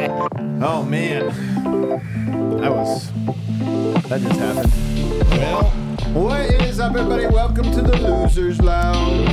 Oh, man. That just happened. Well, what is up, everybody? Welcome to the Losers Lounge.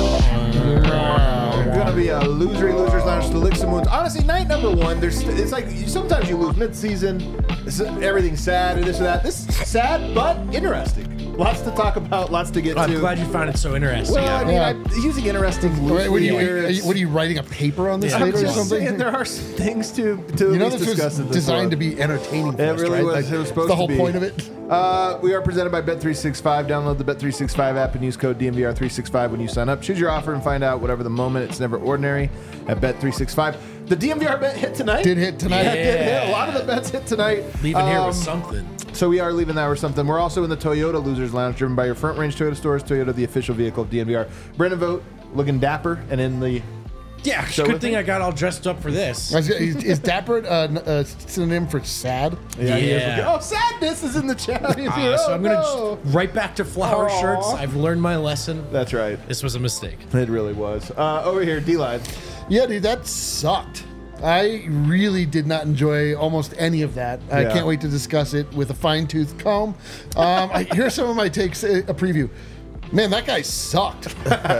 Gonna be a Losers Lounge to lick some wounds. Honestly, night number one, it's like sometimes you lose mid-season. Everything's sad or this or that. This is sad, but interesting. Lots to talk about, lots to get to. I'm glad you found it so interesting. Well, I mean, I'm using interesting loosely here. What are you writing a paper on this later or something? Saying there are some things to you know, this discuss. Was designed to be entertaining for us, us, really right? was. It was supposed the whole to be. point of it. We are presented by Bet365. Download the Bet365 app and use code DMVR365 when you sign up. Choose your offer and find out whatever the moment. It's never ordinary at Bet365. The DMVR bet hit tonight. Did hit tonight. Yeah, did hit. A lot of the bets hit tonight. Leaving here with something. So we are leaving that with something. We're also in the Toyota Losers Lounge, driven by your front range Toyota stores. Toyota, the official vehicle of DMVR. Brendan Vogt, looking dapper and in the... Yeah, good thing I got all dressed up for this. Is dapper a synonym for sad? Yeah. He is. Oh, sadness is in the chat. He's here. So I'm going to right back to flower shirts. I've learned my lesson. That's right. This was a mistake. It really was. Over here, D-Line. Yeah, dude, that sucked. I really did not enjoy almost any of that. I can't wait to discuss it with a fine-tooth comb. Here's some of my takes, a preview. Man, that guy sucked.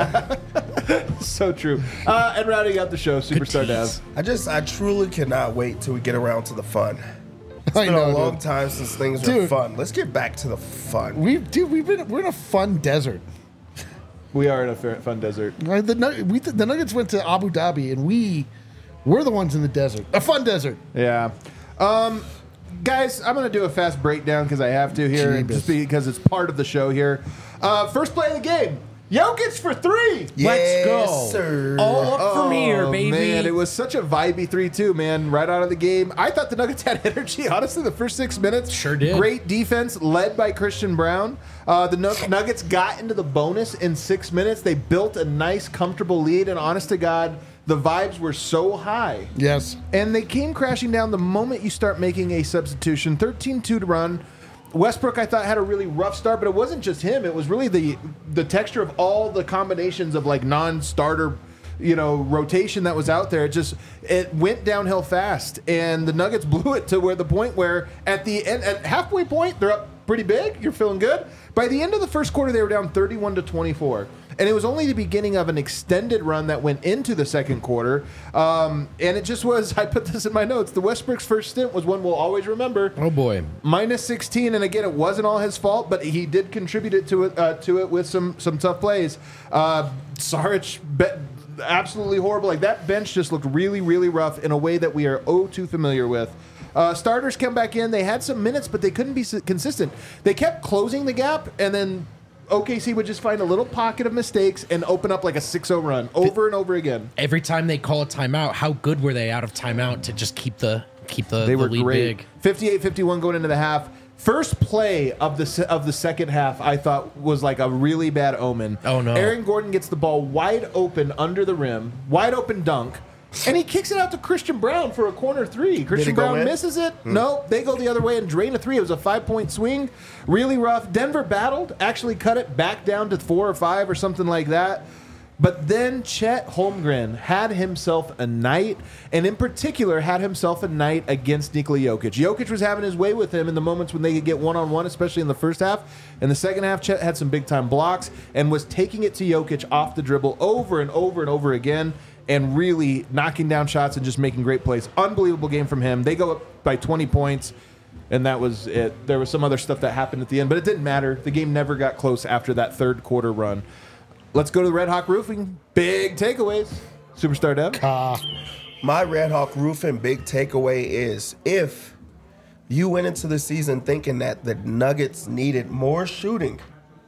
So true. And rounding out the show, Superstar Dev. I truly cannot wait till we get around to the fun. It's been a long time since things were fun. Let's get back to the fun. We're in a fun desert. We are in a fun desert. The Nuggets went to Abu Dhabi, and we're the ones in the desert. A fun desert. Yeah. Guys, I'm going to do a fast breakdown because I have to here, just because it's part of the show here. First play of the game. Jokic for three. Let's go. Sir. All up from here, baby. Man, it was such a vibey 3-2, man, right out of the game. I thought the Nuggets had energy, honestly, the first 6 minutes. Sure did. Great defense led by Christian Brown. The Nuggets got into the bonus in 6 minutes. They built a nice, comfortable lead, and honest to God, the vibes were so high. Yes. And they came crashing down the moment you start making a substitution. 13-2 to run. Westbrook, I thought, had a really rough start, but it wasn't just him. It was really the texture of all the combinations of like non-starter, rotation that was out there. It went downhill fast, and the Nuggets blew it to the point where at the end, at halfway point, they're up pretty big. You're feeling good. By the end of the first quarter, they were down 31-24. And it was only the beginning of an extended run that went into the second quarter. And it just was, I put this in my notes, the Westbrook's first stint was one we'll always remember. Oh, boy. Minus 16, and again, it wasn't all his fault, but he did contribute to it with some tough plays. Saric, absolutely horrible. Like, that bench just looked really, really rough in a way that we are too familiar with. Starters come back in. They had some minutes, but they couldn't be consistent. They kept closing the gap, and then OKC would just find a little pocket of mistakes and open up like a 6-0 run over and over again. Every time they call a timeout, how good were they out of timeout to just keep the They were lead great. big? 58-51 going into the half. First play of the second half, I thought was like a really bad omen. Oh, no. Aaron Gordon gets the ball wide open under the rim, wide open dunk, and he kicks it out to Christian Brown for a corner three. Christian Brown misses it. No, they go the other way and drain a three. It was a 5-point swing. Really rough. Denver battled, actually cut it back down to 4 or 5 or something like that. But then Chet Holmgren had himself a night, and in particular had himself a night against Nikola Jokic. Jokic was having his way with him in the moments when they could get one-on-one, especially in the first half. In the second half, Chet had some big-time blocks and was taking it to Jokic off the dribble over and over and over again, and really knocking down shots and just making great plays. Unbelievable game from him. They go up by 20 points, and that was it. There was some other stuff that happened at the end, but it didn't matter. The game never got close after that third quarter run. Let's go to the Red Hawk Roofing. Big takeaways. Superstar Dev. My Red Hawk Roofing big takeaway is if you went into the season thinking that the Nuggets needed more shooting,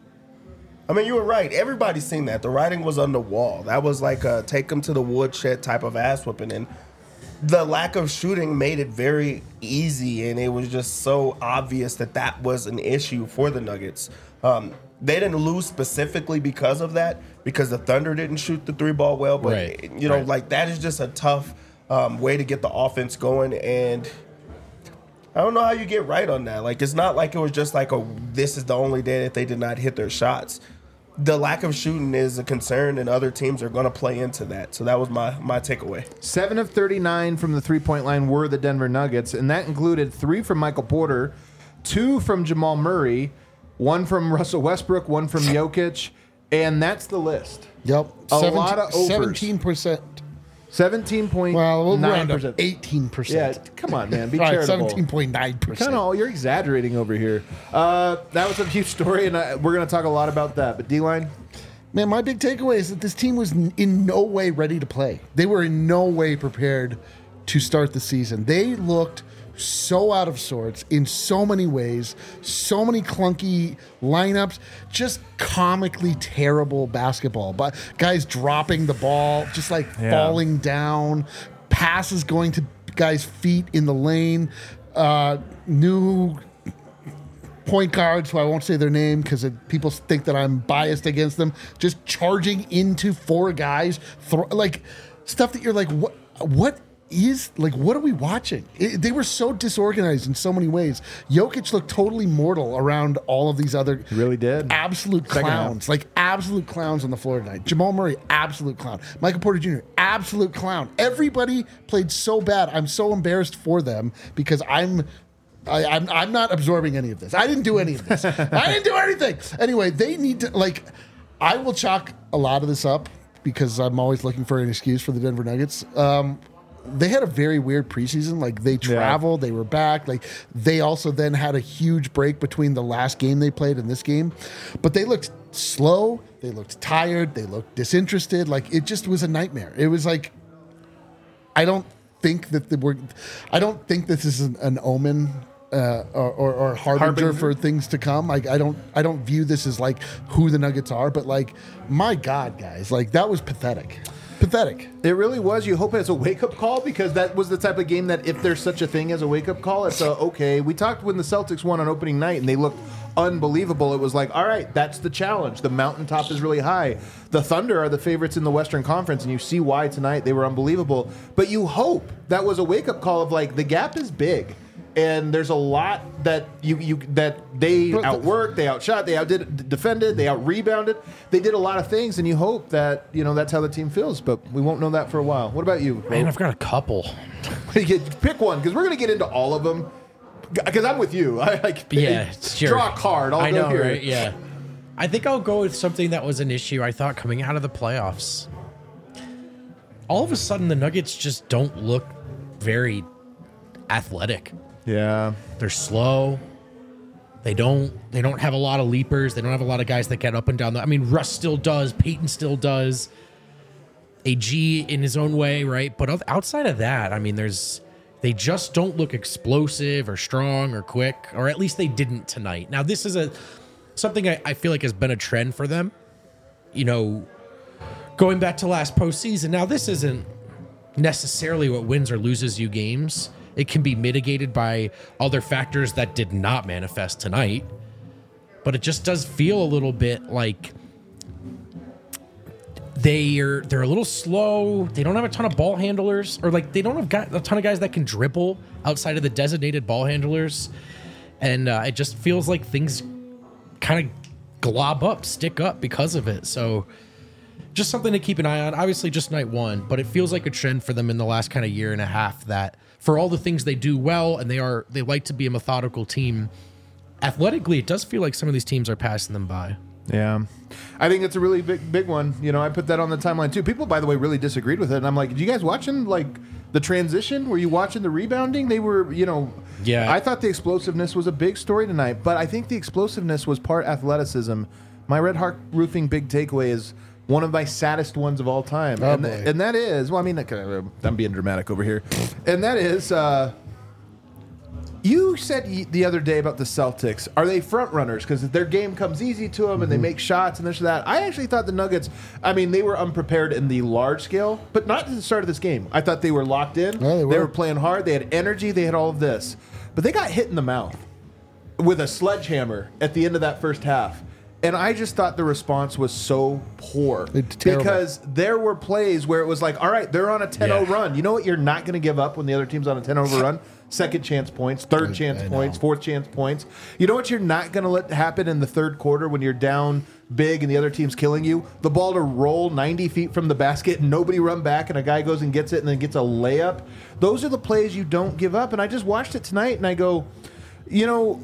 I mean, you were right. Everybody's seen that. The writing was on the wall. That was like a take them to the woodshed type of ass whooping. And the lack of shooting made it very easy, and it was just so obvious that was an issue for the Nuggets. They didn't lose specifically because of that, because the Thunder didn't shoot the three ball well. But, like that is just a tough way to get the offense going. And I don't know how you get right on that. Like, it's not like it was just like, this is the only day that they did not hit their shots. the lack of shooting is a concern, and other teams are going to play into that. So that was my takeaway. 7 of 39 from the three-point line were the Denver Nuggets, and that included 3 from Michael Porter, 2 from Jamal Murray, 1 from Russell Westbrook, 1 from Jokic, and that's the list. Yep. A lot of overs. 17%. 17.9%. Well, we'll round up 18%. Yeah, come on, man. Be All right, charitable. 17.9%. You're exaggerating over here. That was a huge story, and we're going to talk a lot about that. But D-line? Man, my big takeaway is that this team was in no way ready to play. They were in no way prepared to start the season. They looked so out of sorts in so many ways, so many clunky lineups, just comically terrible basketball. But guys dropping the ball, just like falling down, passes going to guys' feet in the lane, new point guards, who I won't say their name because people think that I'm biased against them, just charging into 4 guys, like stuff that you're like, what are we watching? They were so disorganized in so many ways. Jokic looked totally mortal around all of these other really did absolute clowns, like absolute clowns on the floor tonight. Jamal Murray, absolute clown. Michael Porter Jr., absolute clown. Everybody played so bad. I'm so embarrassed for them because I'm not absorbing any of this. I didn't do any of this. I didn't do anything. Anyway, they need to, I will chalk a lot of this up because I'm always looking for an excuse for the Denver Nuggets. They had a very weird preseason. Like, they traveled, they were back. Like, they also then had a huge break between the last game they played and this game. This looked slow. They looked tired. They looked disinterested. Like, it just was a nightmare. It was like, I don't think this is an omen or harbinger for things to come. Like, I don't view this as like who the Nuggets are, but like, my God, guys, like, that was pathetic. Pathetic. It really was. You hope it's a wake-up call because that was the type of game that if there's such a thing as a wake-up call, it's okay. We talked when the Celtics won on opening night and they looked unbelievable. It was like, all right, that's the challenge. The mountaintop is really high. The Thunder are the favorites in the Western Conference, and you see why tonight they were unbelievable. But you hope that was a wake-up call of like, the gap is big. And there's a lot that that they outworked, they outshot, they defended, they out-rebounded. They did a lot of things, and you hope that, that's how the team feels. But we won't know that for a while. What about you, Man, I've got a couple. Pick one, because we're going to get into all of them. Because I'm with you. Sure. Draw a card. I know, here. Right? Yeah. I think I'll go with something that was an issue, I thought, coming out of the playoffs. All of a sudden, the Nuggets just don't look very athletic. Yeah. They're slow. They don't have a lot of leapers. They don't have a lot of guys that get up and down. Russ still does. Peyton still does. AG in his own way, right? But outside of that, they just don't look explosive or strong or quick, or at least they didn't tonight. Now, this is something I feel like has been a trend for them, going back to last postseason. Now, this isn't necessarily what wins or loses you games. It can be mitigated by other factors that did not manifest tonight. But it just does feel a little bit like they're a little slow. They don't have a ton of ball handlers, or like they don't have a ton of guys that can dribble outside of the designated ball handlers. And it just feels like things kind of stick up because of it. So just something to keep an eye on. Obviously just night one, but it feels like a trend for them in the last kind of year and a half that for all the things they do well, and they like to be a methodical team, athletically, it does feel like some of these teams are passing them by. Yeah. I think it's a really big one. I put that on the timeline too. People, by the way, really disagreed with it. And I'm like, did you guys watching the transition? Were you watching the rebounding? They were, Yeah. I thought the explosiveness was a big story tonight, but I think the explosiveness was part athleticism. My Red Hawk Roofing big takeaway is one of my saddest ones of all time. Oh, and that is, I'm being dramatic over here. And that is, you said the other day about the Celtics. Are they front runners? Because their game comes easy to them and they make shots and this or that. I actually thought the Nuggets, they were unprepared in the large scale, but not at the start of this game. I thought they were locked in. Yeah, they were playing hard. They had energy. They had all of this. But they got hit in the mouth with a sledgehammer at the end of that first half. And I just thought the response was so poor. It's terrible. Because there were plays where it was like, all right, they're on a 10-0 Yeah. run. You know what you're not going to give up when the other team's on a 10-0 run? Second chance points, third chance points, fourth chance points. You know what you're not going to let happen in the third quarter when you're down big and the other team's killing you? The ball to roll 90 feet from the basket and nobody run back and a guy goes and gets it and then gets a layup. Those are the plays you don't give up. And I just watched it tonight and I go, you know...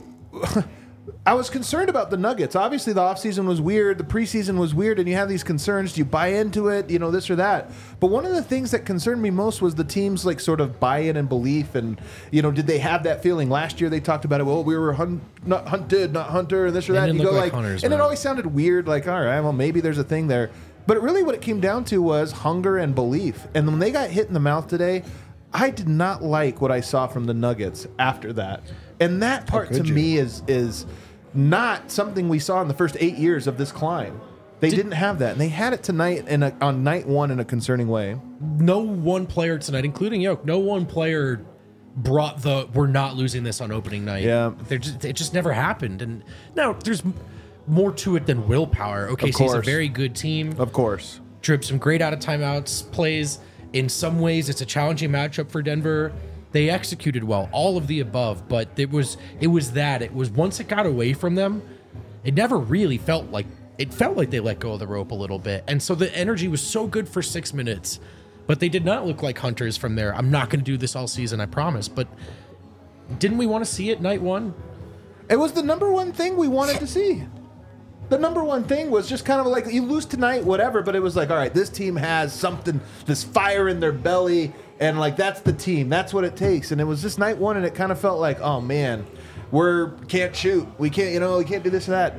I was concerned about the Nuggets. Obviously, the offseason was weird. The preseason was weird, and you have these concerns. Do you buy into it? You know, this or that. But one of the things that concerned me most was the team's, like, sort of buy-in and belief. And, you know, did they have that feeling? Last year, they talked about it. Well, we were not hunted, not hunter, and this or that. They And didn't you go look like like, hunters, and it man. always sounded weird. Like, all right, well, maybe there's a thing there. But really, what it came down to was hunger and belief. And when they got hit in the mouth today, I did not like what I saw from the Nuggets after that. And that part to me is not something we saw in the first 8 years of this climb. They didn't have that, and they had it tonight on night one in a concerning way. No one player tonight, including Yoke, no one player brought the "we're not losing this on opening night." Yeah. It just never happened. And now there's more to it than willpower. OKC's a very good team. Of course. Drip some great out of timeouts plays. In some ways, it's a challenging matchup for Denver. They executed well, all of the above, but it was once it got away from them, it never really felt like they let go of the rope a little bit. And so the energy was so good for 6 minutes, but they did not look like hunters from there. I'm not going to do this all season, I promise. But didn't we want to see it night one? It was the number one thing we wanted to see. The number one thing was just kind of like, you lose tonight, whatever, but it was like, all right, this team has something, this fire in their belly, and like, that's the team. That's what it takes. And it was just night one, and it kind of felt like, oh man, can't shoot. We can't do this or that.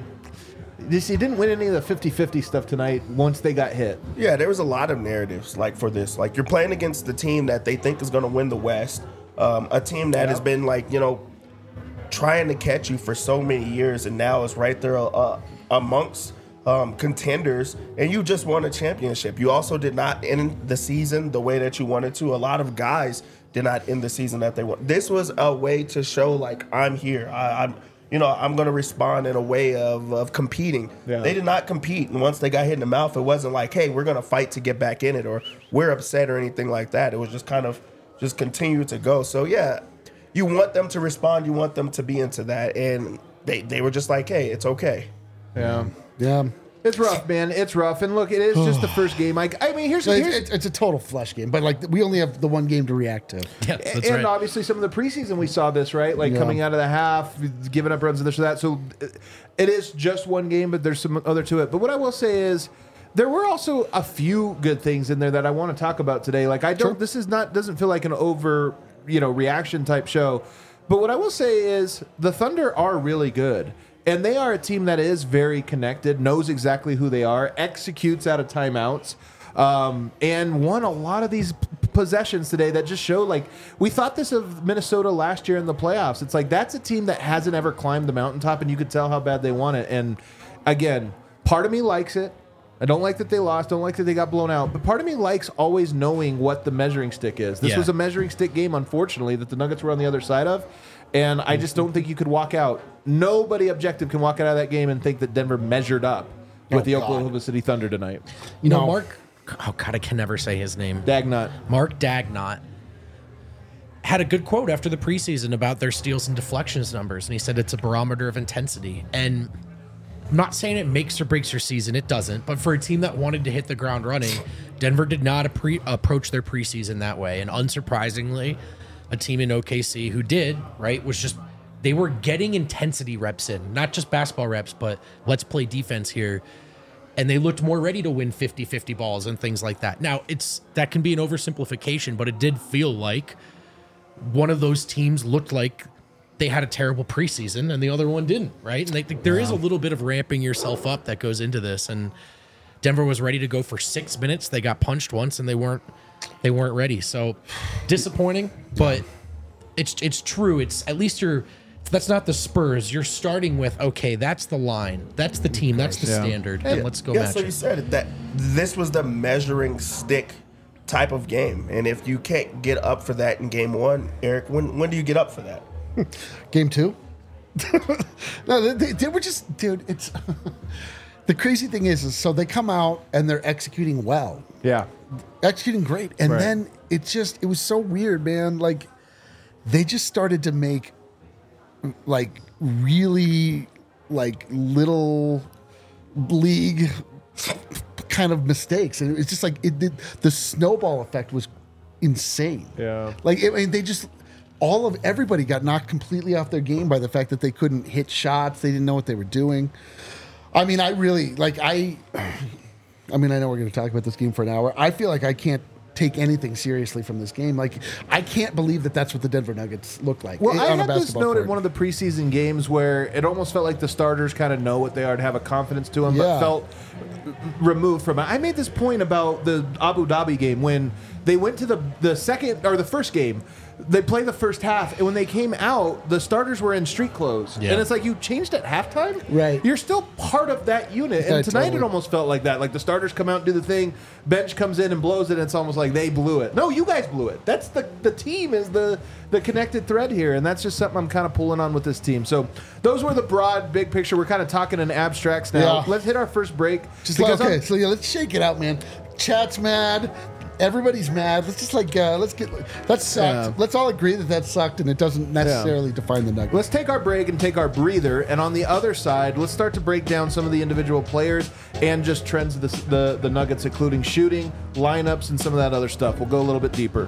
You didn't win any of the 50-50 stuff tonight once they got hit. Yeah, there was a lot of narratives like for this. Like, you're playing against the team that they think is going to win the West, a team that has been like, you know, trying to catch you for so many years, and now is right there amongst contenders, and you just won a championship. You also did not end the season the way that you wanted to. A lot of guys did not end the season that they want. This was a way to show, like, I'm here. I'm going to respond in a way of competing. Yeah. They did not compete, and once they got hit in the mouth, it wasn't like, hey, we're going to fight to get back in it, or we're upset or anything like that. It was just kind of just continue to go. So, yeah, you want them to respond. You want them to be into that, and they were just like, hey, it's okay. Yeah. Yeah. It's rough, man. It's rough. And look, it is just the first game. I mean, here's It's a total flesh game, but like we only have the one game to react to. Yeah, that's and right. obviously some of the preseason we saw this, right? Like coming out of the half, giving up runs and this or that. So it is just one game, but there's some other to it. But what I will say is there were also a few good things in there that I want to talk about today. Like this is doesn't feel like an over, reaction type show. But what I will say is the Thunder are really good. And they are a team that is very connected, knows exactly who they are, executes out of timeouts, and won a lot of these possessions today that just show, like, we thought this of Minnesota last year in the playoffs. It's like, that's a team that hasn't ever climbed the mountaintop, and you could tell how bad they want it. And again, part of me likes it. I don't like that they lost. Don't like that they got blown out. But part of me likes always knowing what the measuring stick is. This was a measuring stick game, unfortunately, that the Nuggets were on the other side of. And I just don't think you could walk out. Nobody objective can walk out of that game and think that Denver measured up with the Oklahoma City Thunder tonight. Mark, oh God, I can never say his name. Dagnott. Mark Dagnott had a good quote after the preseason about their steals and deflections numbers. And he said it's a barometer of intensity. And I'm not saying it makes or breaks your season. It doesn't. But for a team that wanted to hit the ground running, Denver did not approach their preseason that way. And unsurprisingly, a team in OKC who did, right, was just, they were getting intensity reps in, not just basketball reps, but let's play defense here. And they looked more ready to win 50-50 balls and things like that. Now, that can be an oversimplification, but it did feel like one of those teams looked like they had a terrible preseason and the other one didn't, right? And I think there is a little bit of ramping yourself up that goes into this. And Denver was ready to go for 6 minutes. They got punched once and they weren't ready. So disappointing, but it's true. It's at least that's not the Spurs. You're starting with, okay, that's the line. That's the team. That's the standard. And let's go match so you it. said it, that this was the measuring stick type of game. And if you can't get up for that in game one, Eric, when do you get up for that? Game 2. No, they were just, dude. It's the crazy thing is so they come out and they're executing well, executing great, and then it was so weird, man. Like they just started to make like really like little league kind of mistakes, and it's just like the snowball effect was insane. Like they just. Everybody got knocked completely off their game by the fact that they couldn't hit shots. They didn't know what they were doing. I mean, I really I know we're going to talk about this game for an hour. I feel like I can't take anything seriously from this game. Like, I can't believe that that's what the Denver Nuggets look like. Well, I had this note at one of the preseason games where it almost felt like the starters kind of know what they are to have a confidence to them, but felt removed from it. I made this point about the Abu Dhabi game when they went to the second or the first game. They played the first half, and when they came out, the starters were in street clothes. Yeah. And it's like, you changed at halftime? Right. You're still part of that unit. And tonight it almost felt like that. Like the starters come out and do the thing, bench comes in and blows it, and it's almost like they blew it. No, you guys blew it. That's the team is the connected thread here, and that's just something I'm kind of pulling on with this team. So those were the broad, big picture. We're kind of talking in abstracts now. Yeah. Let's hit our first break. Let's shake it out, man. Chat's mad. Everybody's mad. Let's just that sucked. Yeah. Let's all agree that sucked, and it doesn't necessarily define the Nuggets. Let's take our break and take our breather, and on the other side, let's start to break down some of the individual players and just trends of the Nuggets, including shooting, lineups, and some of that other stuff. We'll go a little bit deeper.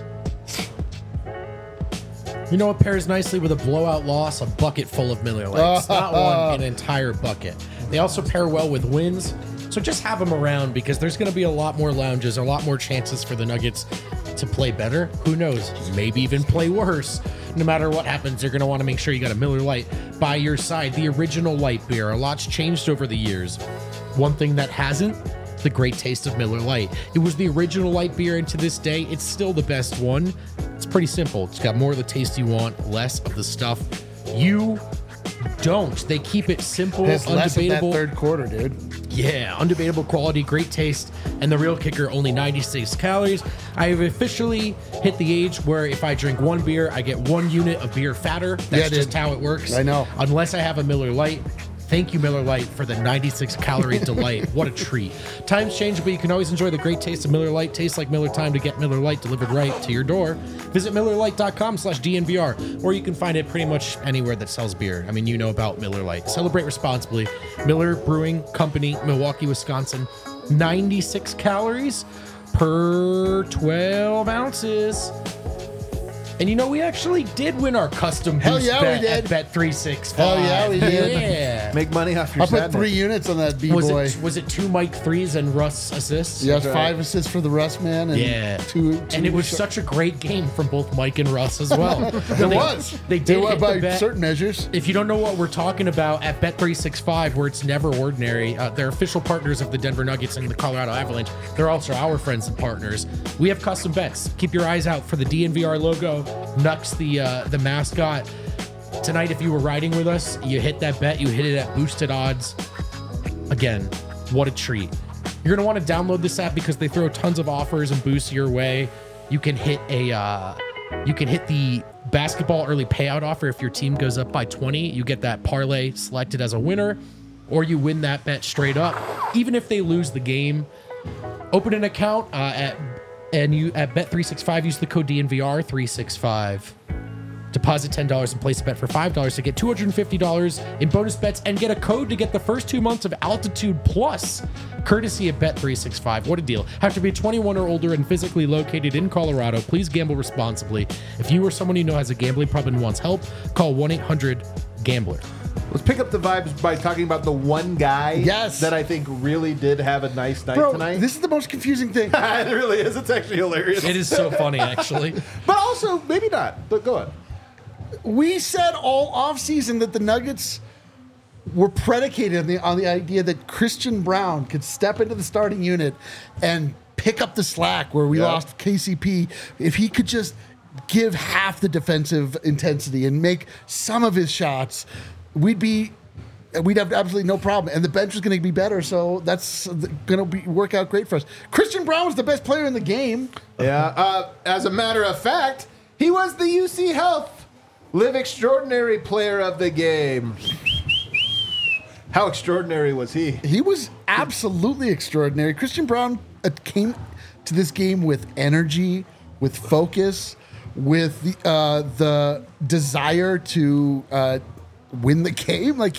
You know what pairs nicely with a blowout loss? A bucket full of Miller Lites. Not one, an entire bucket. They also pair well with wins. So just have them around because there's going to be a lot more lounges, a lot more chances for the Nuggets to play better. Who knows? Maybe even play worse. No matter what happens, you're going to want to make sure you got a Miller Lite by your side. The original light beer. A lot's changed over the years. One thing that hasn't, the great taste of Miller Lite. It was the original light beer, and to this day, it's still the best one. It's pretty simple. It's got more of the taste you want, less of the stuff you don't. They keep it simple, it's undebatable. Less of that third quarter, dude. Yeah, undebatable quality, great taste, and the real kicker, only 96 calories. I have officially hit the age where if I drink one beer, I get 1 unit of beer fatter. That's just how it works. I know. Unless I have a Miller Lite. Thank you, Miller Lite, for the 96-calorie delight. What a treat. Times change, but you can always enjoy the great taste of Miller Lite. Tastes like Miller time to get Miller Lite delivered right to your door. Visit MillerLite.com/DNVR, or you can find it pretty much anywhere that sells beer. I mean, you know about Miller Lite. Celebrate responsibly. Miller Brewing Company, Milwaukee, Wisconsin. 96 calories per 12 ounces. And you know, we actually did win our custom boost bet at Bet365. Hell yeah, we did. Yeah. Make money off your sadness. I put 3 units on that B-boy. Was it 2 Mike threes and Russ assists? Yes, 5 assists for the Russ man. And two and it was such a great game from both Mike and Russ as well. They did hit by the bet. Certain measures. If you don't know what we're talking about, at Bet365, where it's never ordinary, they're official partners of the Denver Nuggets and the Colorado Avalanche. They're also our friends and partners. We have custom bets. Keep your eyes out for the DNVR logo. Nux, the mascot. Tonight, if you were riding with us, you hit that bet. You hit it at boosted odds. Again, what a treat. You're going to want to download this app because they throw tons of offers and boosts your way. You can hit the basketball early payout offer. If your team goes up by 20, you get that parlay selected as a winner, or you win that bet straight up. Even if they lose the game, open an account at Bet365, use the code DNVR365. Deposit $10 and place a bet for $5 to get $250 in bonus bets and get a code to get the first 2 months of Altitude Plus, courtesy of Bet365. What a deal. Have to be 21 or older and physically located in Colorado. Please gamble responsibly. If you or someone you know has a gambling problem and wants help, call 1-800-GAMBLER. Let's pick up the vibes by talking about the one guy that I think really did have a nice night tonight. This is the most confusing thing. It really is. It's actually hilarious. It is so funny, actually. But also, maybe not. But go on. We said all offseason that the Nuggets were predicated on the idea that Christian Braun could step into the starting unit and pick up the slack where we lost KCP. If he could just give half the defensive intensity and make some of his shots, we'd have absolutely no problem, and the bench was going to be better. So that's going to work out great for us. Christian Braun was the best player in the game. Yeah. As a matter of fact, he was the UC Health Live extraordinary player of the game. How extraordinary was he? He was absolutely extraordinary. Christian Braun came to this game with energy, with focus, with the desire to win the game. Like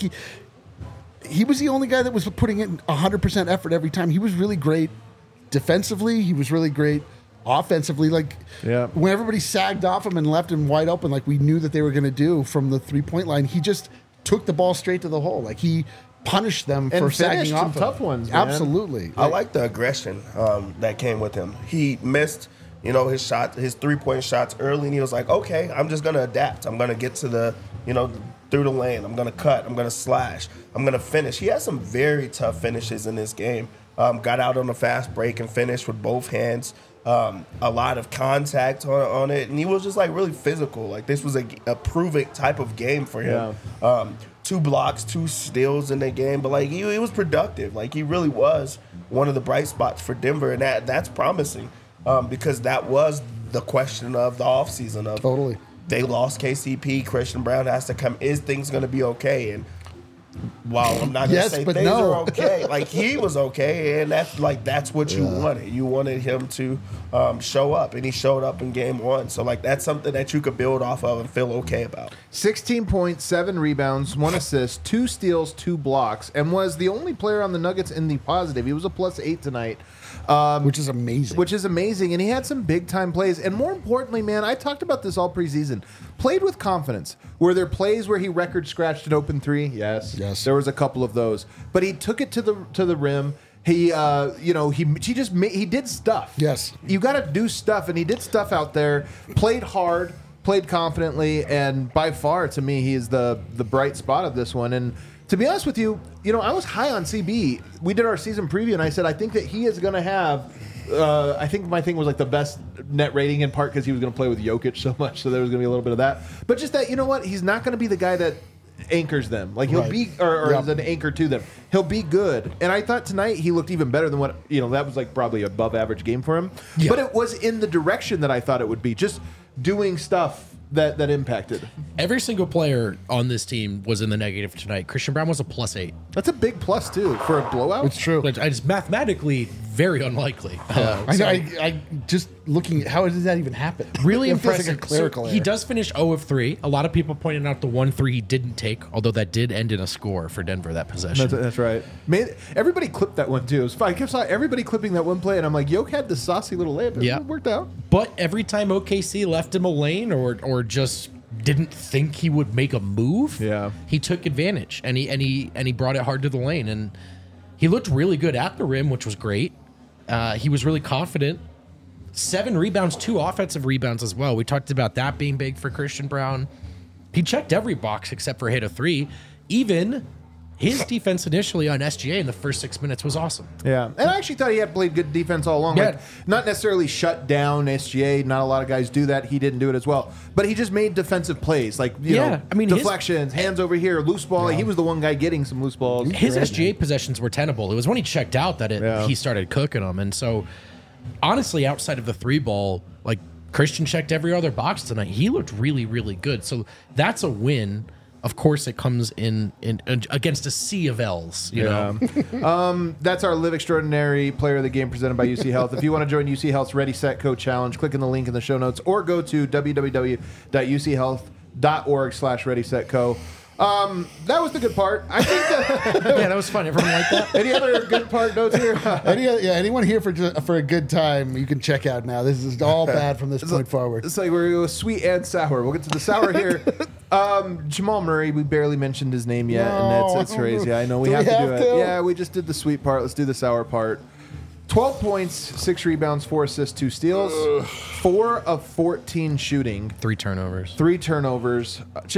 he was the only guy that was putting in 100% effort every time. He was really great defensively. He was really great offensively. Like when everybody sagged off him and left him wide open, like we knew that they were going to do from the 3-point line, he just took the ball straight to the hole. Like he punished them and for sagging off. Some tough ones, man. Absolutely. I like the aggression that came with him. He missed, his 3-point shots early, and he was like, okay, I'm just going to adapt. I'm going to get to the, through the lane. I'm going to cut. I'm going to slash. I'm going to finish. He had some very tough finishes in this game. Got out on a fast break and finished with both hands. A lot of contact on it, and he was just like really physical. Like this was a prove-it type of game for him. Yeah. 2 blocks, 2 steals in the game, but like he was productive. Like he really was one of the bright spots for Denver, and that's promising because that was the question of the offseason. Totally. They lost KCP. Christian Braun has to come. Is things going to be okay? And while I'm not going to say things are okay, like he was okay, and that's what you wanted. You wanted him to show up, and he showed up in game 1. So like that's something that you could build off of and feel okay about. 16 points, 7 rebounds, 1 assist, 2 steals, 2 blocks, and was the only player on the Nuggets in the positive. He was a +8 tonight. Which is amazing. And he had some big-time plays. And more importantly, man, I talked about this all preseason. Played with confidence. Were there plays where he record-scratched an open 3? Yes. There was a couple of those. But he took it to the rim. He did stuff. Yes. You got to do stuff, and he did stuff out there. Played hard, played confidently, and by far, to me, he is the bright spot of this one. And to be honest with you, I was high on CB. We did our season preview, and I said I think that he is going to have. I think my thing was like the best net rating in part because he was going to play with Jokic so much, so there was going to be a little bit of that. But just that, he's not going to be the guy that anchors them. Like he'll be, or is an anchor to them. He'll be good. And I thought tonight he looked even better than what that was like probably above average game for him. Yeah. But it was in the direction that I thought it would be, just doing stuff that impacted. Every single player on this team was in the negative tonight. Christian Braun was a +8. That's a big plus too for a blowout. It's true. But it's mathematically very unlikely. I know. I just looking at how does that even happen? Really it feels impressive. like a clerical He does finish 0 of 3. A lot of people pointed out the 1-3 he didn't take, although that did end in a score for Denver, that possession. That's right. Everybody clipped that one too. It was fun. I kept saw everybody clipping that one play, and I'm like, Yoke had the saucy little layup. It worked out. But every time OKC left him a lane or just didn't think he would make a move, he took advantage and he brought it hard to the lane, and he looked really good at the rim, which was great. He was really confident. 7 rebounds, 2 offensive rebounds as well. We talked about that being big for Christian Braun. He checked every box except for hit a 3. Even his defense initially on SGA in the first 6 minutes was awesome. Yeah, and I actually thought he had played good defense all along. Yeah. Like, not necessarily shut down SGA. Not a lot of guys do that. He didn't do it as well. But he just made defensive plays, like deflections, hands over here, loose ball. Like, he was the one guy getting some loose balls. His SGA possessions were tenable. It was when he checked out that he started cooking them. And so, honestly, outside of the 3 ball, like Christian checked every other box tonight. He looked really, really good. So that's a win. Of course, it comes in against a sea of L's, you know. That's our Live Extraordinary Player of the Game presented by UC Health. If you want to join UC Health's Ready, Set, Go Challenge, click on the link in the show notes or go to www.uchealth.org/ReadySetGo. That was the good part. I think that that was fun. Everyone liked that. Any other good part notes here? Anyone here for a good time, you can check out now. This is all bad from this point forward. It's like we're going to go sweet and sour. We'll get to the sour here. Jamal Murray, we barely mentioned his name yet, and it's crazy. I know we have to do it. Yeah, we just did the sweet part. Let's do the sour part. 12 points, 6 rebounds, 4 assists, 2 steals, 4 of 14 shooting. 3 turnovers. 3 turnovers.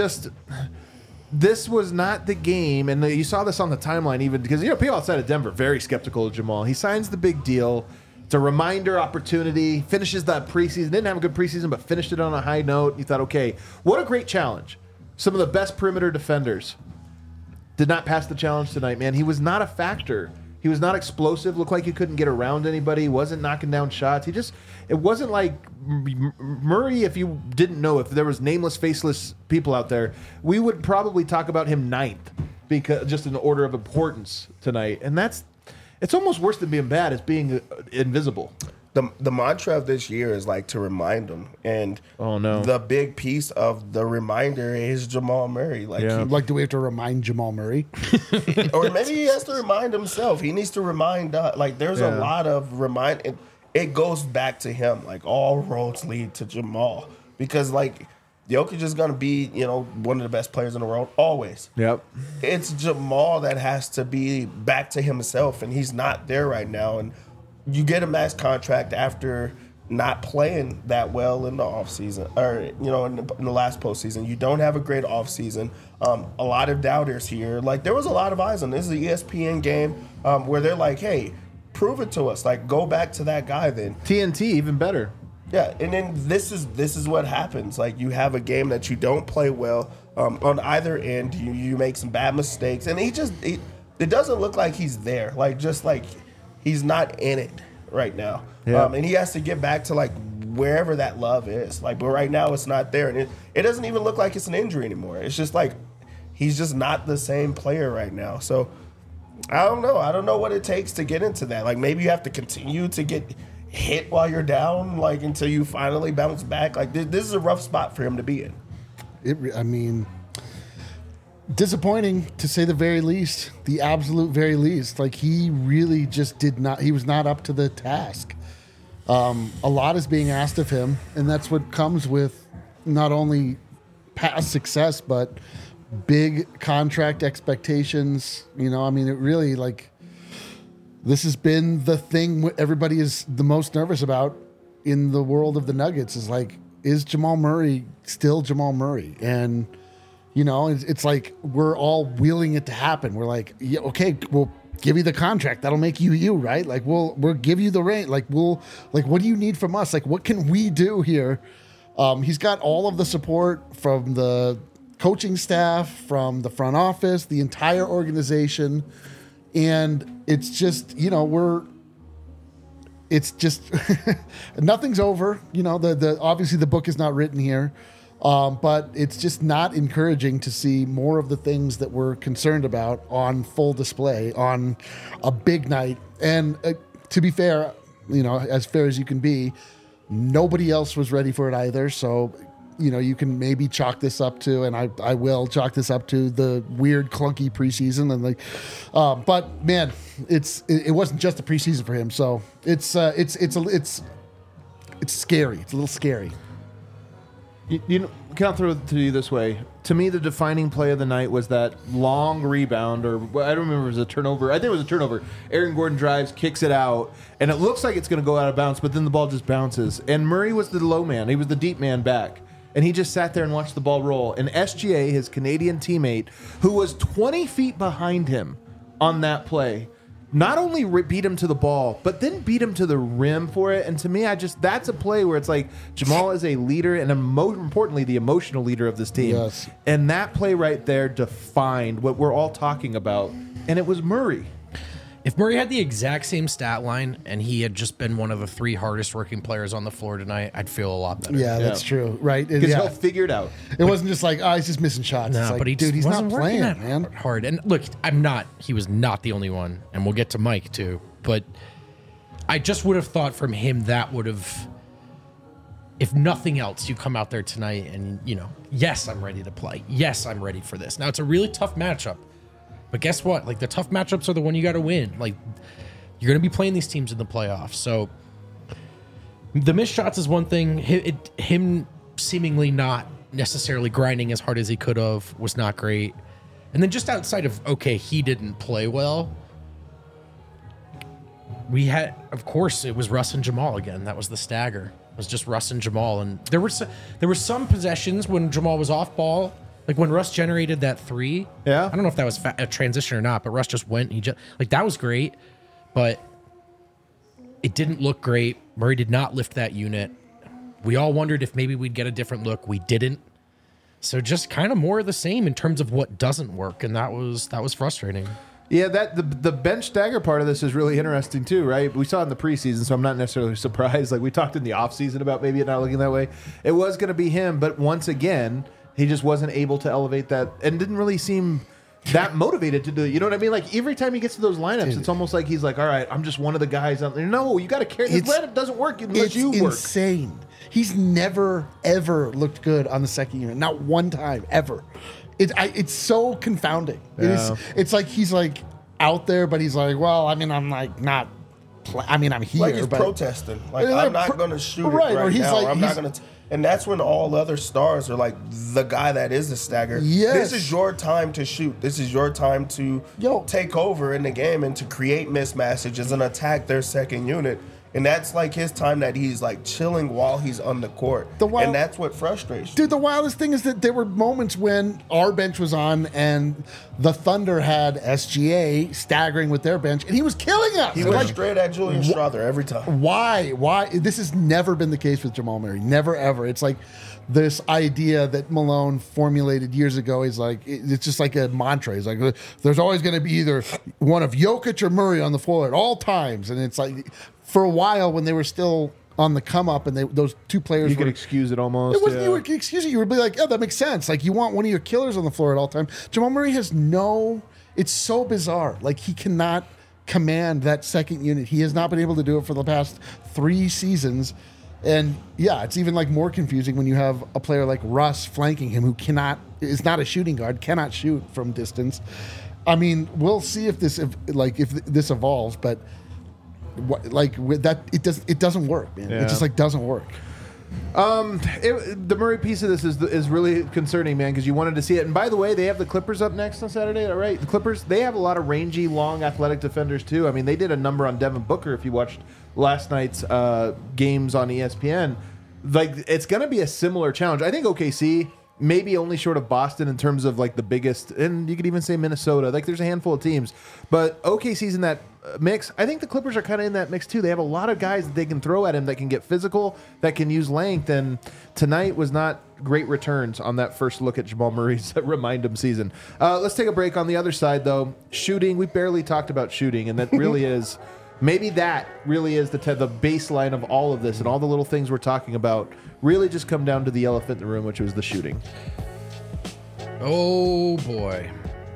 This was not the game, and you saw this on the timeline even because people outside of Denver very skeptical of Jamal. He signs the big deal. It's a reminder opportunity. Finishes that preseason. Didn't have a good preseason, but finished it on a high note. You thought, okay, what a great challenge. Some of the best perimeter defenders did not pass the challenge tonight, man. He was not a factor. He was not explosive. Looked like he couldn't get around anybody. Wasn't knocking down shots. it wasn't like Murray. If you didn't know, if there was nameless, faceless people out there, we would probably talk about him ninth, because just in order of importance tonight. And it's almost worse than being bad. It's being invisible. The mantra of this year is like to remind them, and oh no, the big piece of the reminder is Jamal Murray. Like, do we have to remind Jamal Murray, or maybe he has to remind himself? He needs to remind us. Like, there's a lot of remind. It goes back to him. Like, all roads lead to Jamal, because like Jokic is gonna be one of the best players in the world always. Yep. It's Jamal that has to be back to himself, and he's not there right now. And you get a max contract after not playing that well in the offseason, or in the last postseason. You don't have a great offseason. A lot of doubters here. Like, there was a lot of eyes on this. Is an ESPN game where they're like, "Hey, prove it to us. Like, go back to that guy then." TNT, even better. Yeah, and then this is what happens. Like, you have a game that you don't play well on either end. You make some bad mistakes, and it doesn't look like he's there. Like, just like he's not in it right now. Yeah. And he has to get back to like wherever that love is. Like, but right now it's not there, and it doesn't even look like it's an injury anymore. It's just like he's just not the same player right now. So I don't know. I don't know what it takes to get into that. Like, maybe you have to continue to get hit while you're down, like, until you finally bounce back. Like, this is a rough spot for him to be in. Disappointing to say the very least, the absolute very least. Like, he really just he was not up to the task. A lot is being asked of him, and that's what comes with not only past success, but big contract expectations. It really, like, this has been the thing everybody is the most nervous about in the world of the Nuggets, is like, is Jamal Murray still Jamal Murray? And it's like we're all willing it to happen. We're like, yeah, okay, we'll give you the contract. That'll make you, right? Like, we'll give you the rate. Like, what do you need from us? Like, what can we do here? He's got all of the support from the coaching staff, from the front office, the entire organization. And it's just, it's just, nothing's over. Obviously the book is not written here. But it's just not encouraging to see more of the things that we're concerned about on full display on a big night. And to be fair, as fair as you can be, nobody else was ready for it either. So, you can maybe chalk this up to, and I will chalk this up to, the weird, clunky preseason. And but man, it wasn't just a preseason for him. So it's scary. It's a little scary. Can I throw it to you this way? To me, the defining play of the night was that long rebound, or I don't remember if it was a turnover. I think it was a turnover. Aaron Gordon drives, kicks it out, and it looks like it's going to go out of bounds, but then the ball just bounces. And Murray was the low man. He was the deep man back. And he just sat there and watched the ball roll. And SGA, his Canadian teammate, who was 20 feet behind him on that play, not only beat him to the ball, but then beat him to the rim for it. And to me, that's a play where it's like Jamal is a leader, and more importantly, the emotional leader of this team. Yes. And that play right there defined what we're all talking about. And it was Murray. If Murray had the exact same stat line and he had just been one of the 3 hardest working players on the floor tonight, I'd feel a lot better. Yeah, that's true. Right. Because he'll figure it out. It wasn't just like, he's just missing shots. No, it's like, but he's not playing, that man. hard. And look, he was not the only one. And we'll get to Mike too. But I just would have thought from him that would have, if nothing else, you come out there tonight and, yes, I'm ready to play. Yes, I'm ready for this. Now, it's a really tough matchup. But guess what? Like, the tough matchups are the one you got to win. Like, you're going to be playing these teams in the playoffs. So the missed shots is one thing. Him seemingly not necessarily grinding as hard as he could have was not great. And then just outside of, okay, he didn't play well, we had, of course, it was Russ and Jamal again. That was the stagger. It was just Russ and Jamal. And there were some possessions when Jamal was off ball. Like when Russ generated that 3, yeah. I don't know if that was a transition or not, but Russ just went. That was great, but it didn't look great. Murray did not lift that unit. We all wondered if maybe we'd get a different look. We didn't. So just kind of more of the same in terms of what doesn't work, and that was frustrating. Yeah, the bench stagger part of this is really interesting too, right? We saw it in the preseason, so I'm not necessarily surprised. Like we talked in the offseason about maybe it not looking that way. It was going to be him, but once again, he just wasn't able to elevate that and didn't really seem that motivated to do it. You know what I mean? Like every time he gets to those lineups, it's almost like he's like, all right, I'm just one of the guys out there. No, you got to carry. This lineup doesn't work unless you work. It's insane. He's never, ever looked good on the second unit. Not one time, ever. It's so confounding. Yeah. It's like he's like out there, but he's like, well, I mean, I'm like not. I mean, I'm here. Like he's but protesting. Like I'm not going to shoot it right or he's now. like, I'm not going to. And that's when all other stars are like the guy that is the stagger. Yes. This is your time to shoot. This is your time to take over in the game and to create mismatches and attack their second unit. And that's like his time that he's like chilling while he's on the court. And that's what frustrates you. Dude, the wildest thing is that there were moments when our bench was on and the Thunder had SGA staggering with their bench and he was killing us. He went straight at Julian Strawther every time. Why? This has never been the case with Jamal Murray. Never, ever. It's like this idea that Malone formulated years ago. He's like, it's just like a mantra. He's like, there's always going to be either one of Jokic or Murray on the floor at all times. And it's like, for a while when they were still on the come up and those two players you could excuse it almost. It wasn't you would excuse it. You would be like, oh, that makes sense. Like you want one of your killers on the floor at all time. Jamal Murray has it's so bizarre. Like he cannot command that second unit. He has not been able to do it for the past 3 seasons. And yeah, it's even like more confusing when you have a player like Russ flanking him who is not a shooting guard, cannot shoot from distance. I mean, we'll see if this evolves, but it doesn't work, man. Yeah. It just like doesn't work. The Murray piece of this is really concerning, man, because you wanted to see it. And by the way, they have the Clippers up next on Saturday, right? The Clippers, they have a lot of rangy, long, athletic defenders too. I mean, they did a number on Devin Booker if you watched last night's games on ESPN. Like, it's going to be a similar challenge. I think OKC maybe only short of Boston in terms of like the biggest, and you could even say Minnesota. Like there's a handful of teams, but OKC's in that mix. I think the Clippers are kind of in that mix too. They have a lot of guys that they can throw at him that can get physical, that can use length, and tonight was not great returns on that first look at Jamal Murray's remind him season. Let's take a break. On the other side though, shooting, we barely talked about shooting, and that really is maybe that really is the baseline of all of this, and all the little things we're talking about really just come down to the elephant in the room, which was the shooting. Oh boy.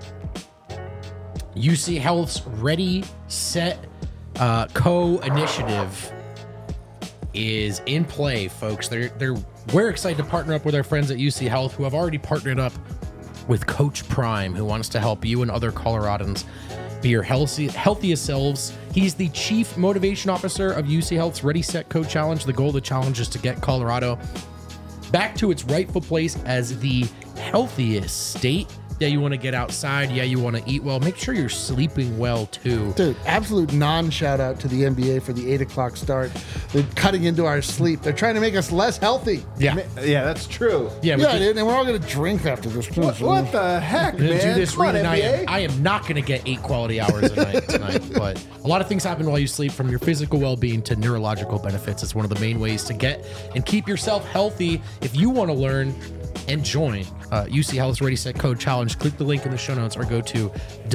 UC Health's Ready, Set, Co-initiative is in play, folks. We're excited to partner up with our friends at UC Health, who have already partnered up with Coach Prime, who wants to help you and other Coloradans be your healthiest selves. He's the Chief Motivation Officer of UC Health's Ready, Set, Co Challenge. The goal of the challenge is to get Colorado back to its rightful place as the healthiest state. Yeah, you want to get outside. Yeah, you want to eat well. Make sure you're sleeping well, too. Dude, absolute non-shout out to the NBA for the 8 o'clock start. They're cutting into our sleep. They're trying to make us less healthy. Yeah, that's true. Yeah, dude, and we're all going to drink after this. What the heck, man? Do this Come on, I am not going to get 8 quality hours a night tonight, but a lot of things happen while you sleep, from your physical well-being to neurological benefits. It's one of the main ways to get and keep yourself healthy. If you want to learn and join UC Health's Ready, Set, Co Challenge, click the link in the show notes or go to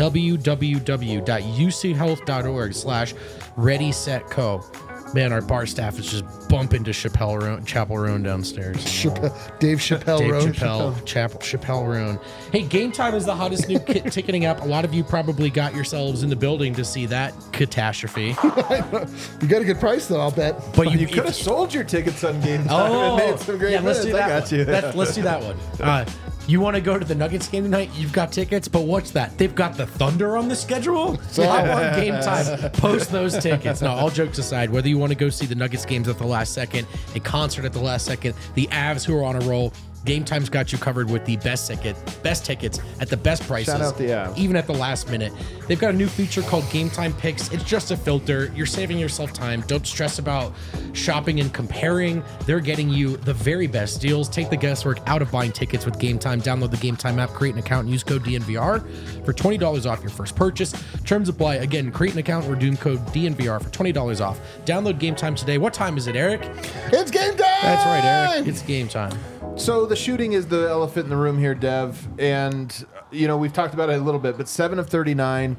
www.uchealth.org/Ready, Set, Co. Man, our bar staff is just bumping to Chapel Roan downstairs. Dave Chappelle Roan. Hey, Game Time is the hottest new ticketing app. A lot of you probably got yourselves in the building to see that catastrophe. You got a good price, though, I'll bet. But you could have sold your tickets on Game Time and made some great let's do that. I got you. Let's do that one. You want to go to the Nuggets game tonight? You've got tickets, but what's that? They've got the Thunder on the schedule? I want Game Time. Post those tickets. No, all jokes aside, whether you want to go see the Nuggets games at the last second, a concert at the last second, the Avs who are on a roll, Game Time's got you covered with the best tickets at the best prices. Shout out the Avs. Even at the last minute. They've got a new feature called Game Time Picks. It's just a filter. You're saving yourself time. Don't stress about shopping and comparing. They're getting you the very best deals. Take the guesswork out of buying tickets with Game Time. Download the Game Time app, create an account, and use code DNVR for $20 off your first purchase. Terms apply. Again, create an account, redeem code DNVR for $20 off. Download Game Time today. What time is it, Eric? It's game time! That's right, Eric. It's game time. So the shooting is the elephant in the room here, Dev. And, we've talked about it a little bit, but 7 of 39.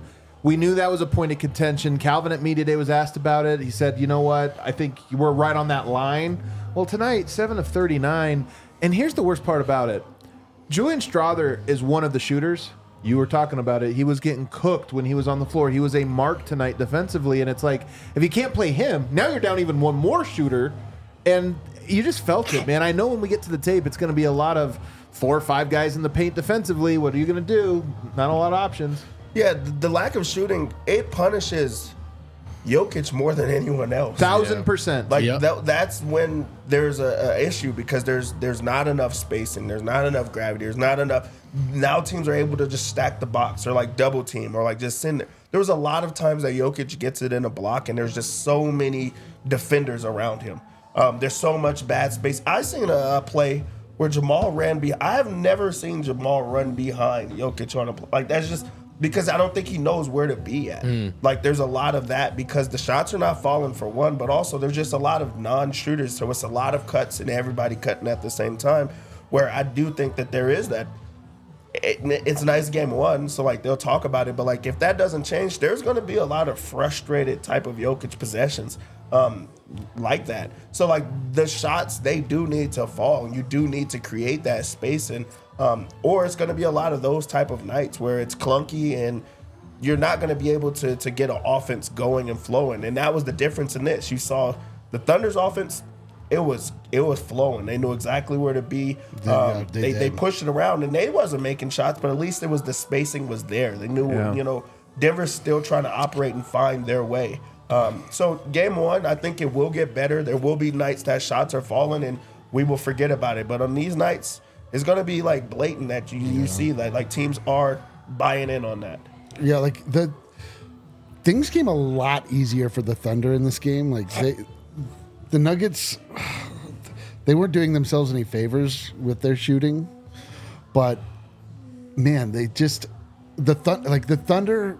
We knew that was a point of contention. Calvin at media day was asked about it. He said, you know what? I think we're right on that line. Well, tonight, 7 of 39. And here's the worst part about it. Julian Strawther is one of the shooters. You were talking about it. He was getting cooked when he was on the floor. He was a mark tonight defensively. And it's like, if you can't play him, now you're down even one more shooter. And you just felt it, man. I know when we get to the tape, it's going to be a lot of 4 or 5 guys in the paint defensively. What are you going to do? Not a lot of options. Yeah, the lack of shooting, it punishes Jokic more than anyone else. 1,000%. Like that's when there's a issue because there's not enough spacing, there's not enough gravity, there's not enough. Now teams are able to just stack the box or like double team or like just send it. There was a lot of times that Jokic gets it in a block and there's just so many defenders around him. There's so much bad space. I seen a play where Jamal ran behind. I have never seen Jamal run behind Jokic on a play. Like that's just. Because I don't think he knows where to be at. Like, there's a lot of that because the shots are not falling for one, but also there's just a lot of non-shooters. So it's a lot of cuts and everybody cutting at the same time where I do think that there is that. It's a nice game one, so, like, they'll talk about it. But, like, if that doesn't change, there's going to be a lot of frustrated type of Jokic possessions like that. So, like, the shots, they do need to fall. You do need to create that space and or it's going to be a lot of those type of nights where it's clunky and you're not going to be able to get an offense going and flowing. And that was the difference in this. You saw the Thunder's offense, it was flowing. They knew exactly where to be. They pushed it around and they wasn't making shots, but at least it was the spacing was there. They knew, Denver's still trying to operate and find their way. So game one, I think it will get better. There will be nights that shots are falling and we will forget about it. But on these nights, it's going to be like blatant that you see that like teams are buying in on that. Yeah, like the things came a lot easier for the Thunder in this game. Like the Nuggets, they weren't doing themselves any favors with their shooting, but man, the Thunder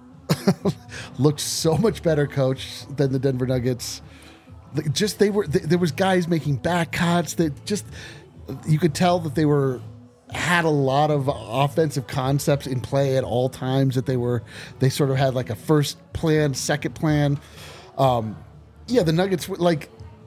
looked so much better coached than the Denver Nuggets. There was guys making back cuts that just. You could tell that they had a lot of offensive concepts in play at all times. That they sort of had like a first plan, second plan. The Nuggets would like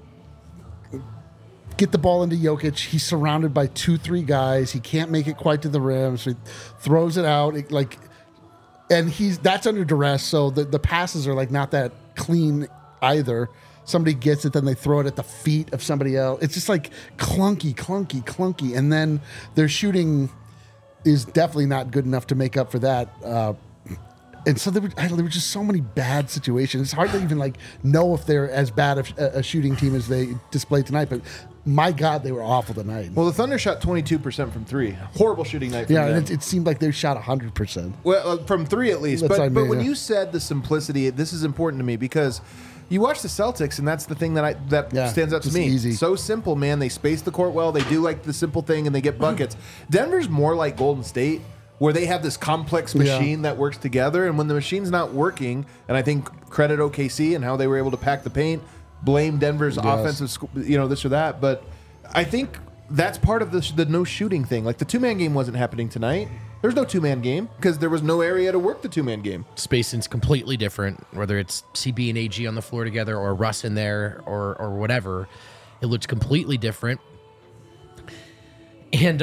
get the ball into Jokic. He's surrounded by 2-3 guys. He can't make it quite to the rim, so he throws it out. And that's under duress. So the passes are like not that clean either. Somebody gets it, then they throw it at the feet of somebody else. It's just like clunky. And then their shooting is definitely not good enough to make up for that. And so there were just so many bad situations. It's hard to even like know if they're as bad a shooting team as they displayed tonight. But my God, they were awful tonight. Well, the Thunder shot 22% from 3. Horrible shooting night for them. And it seemed like they shot 100%. Well, from 3 at least. But when you said the simplicity, this is important to me because you watch the Celtics, and that's the thing that stands out to me. Easy. So simple, man. They space the court well. They do like the simple thing, and they get buckets. Denver's more like Golden State, where they have this complex machine that works together. And when the machine's not working, and I think credit OKC and how they were able to pack the paint, blame Denver's offensive, this or that. But I think that's part of the no shooting thing. Like the 2-man game wasn't happening tonight. There's no 2-man game because there was no area to work the 2-man game. Spacing's completely different, whether it's CB and AG on the floor together or Russ in there or whatever. It looks completely different. And,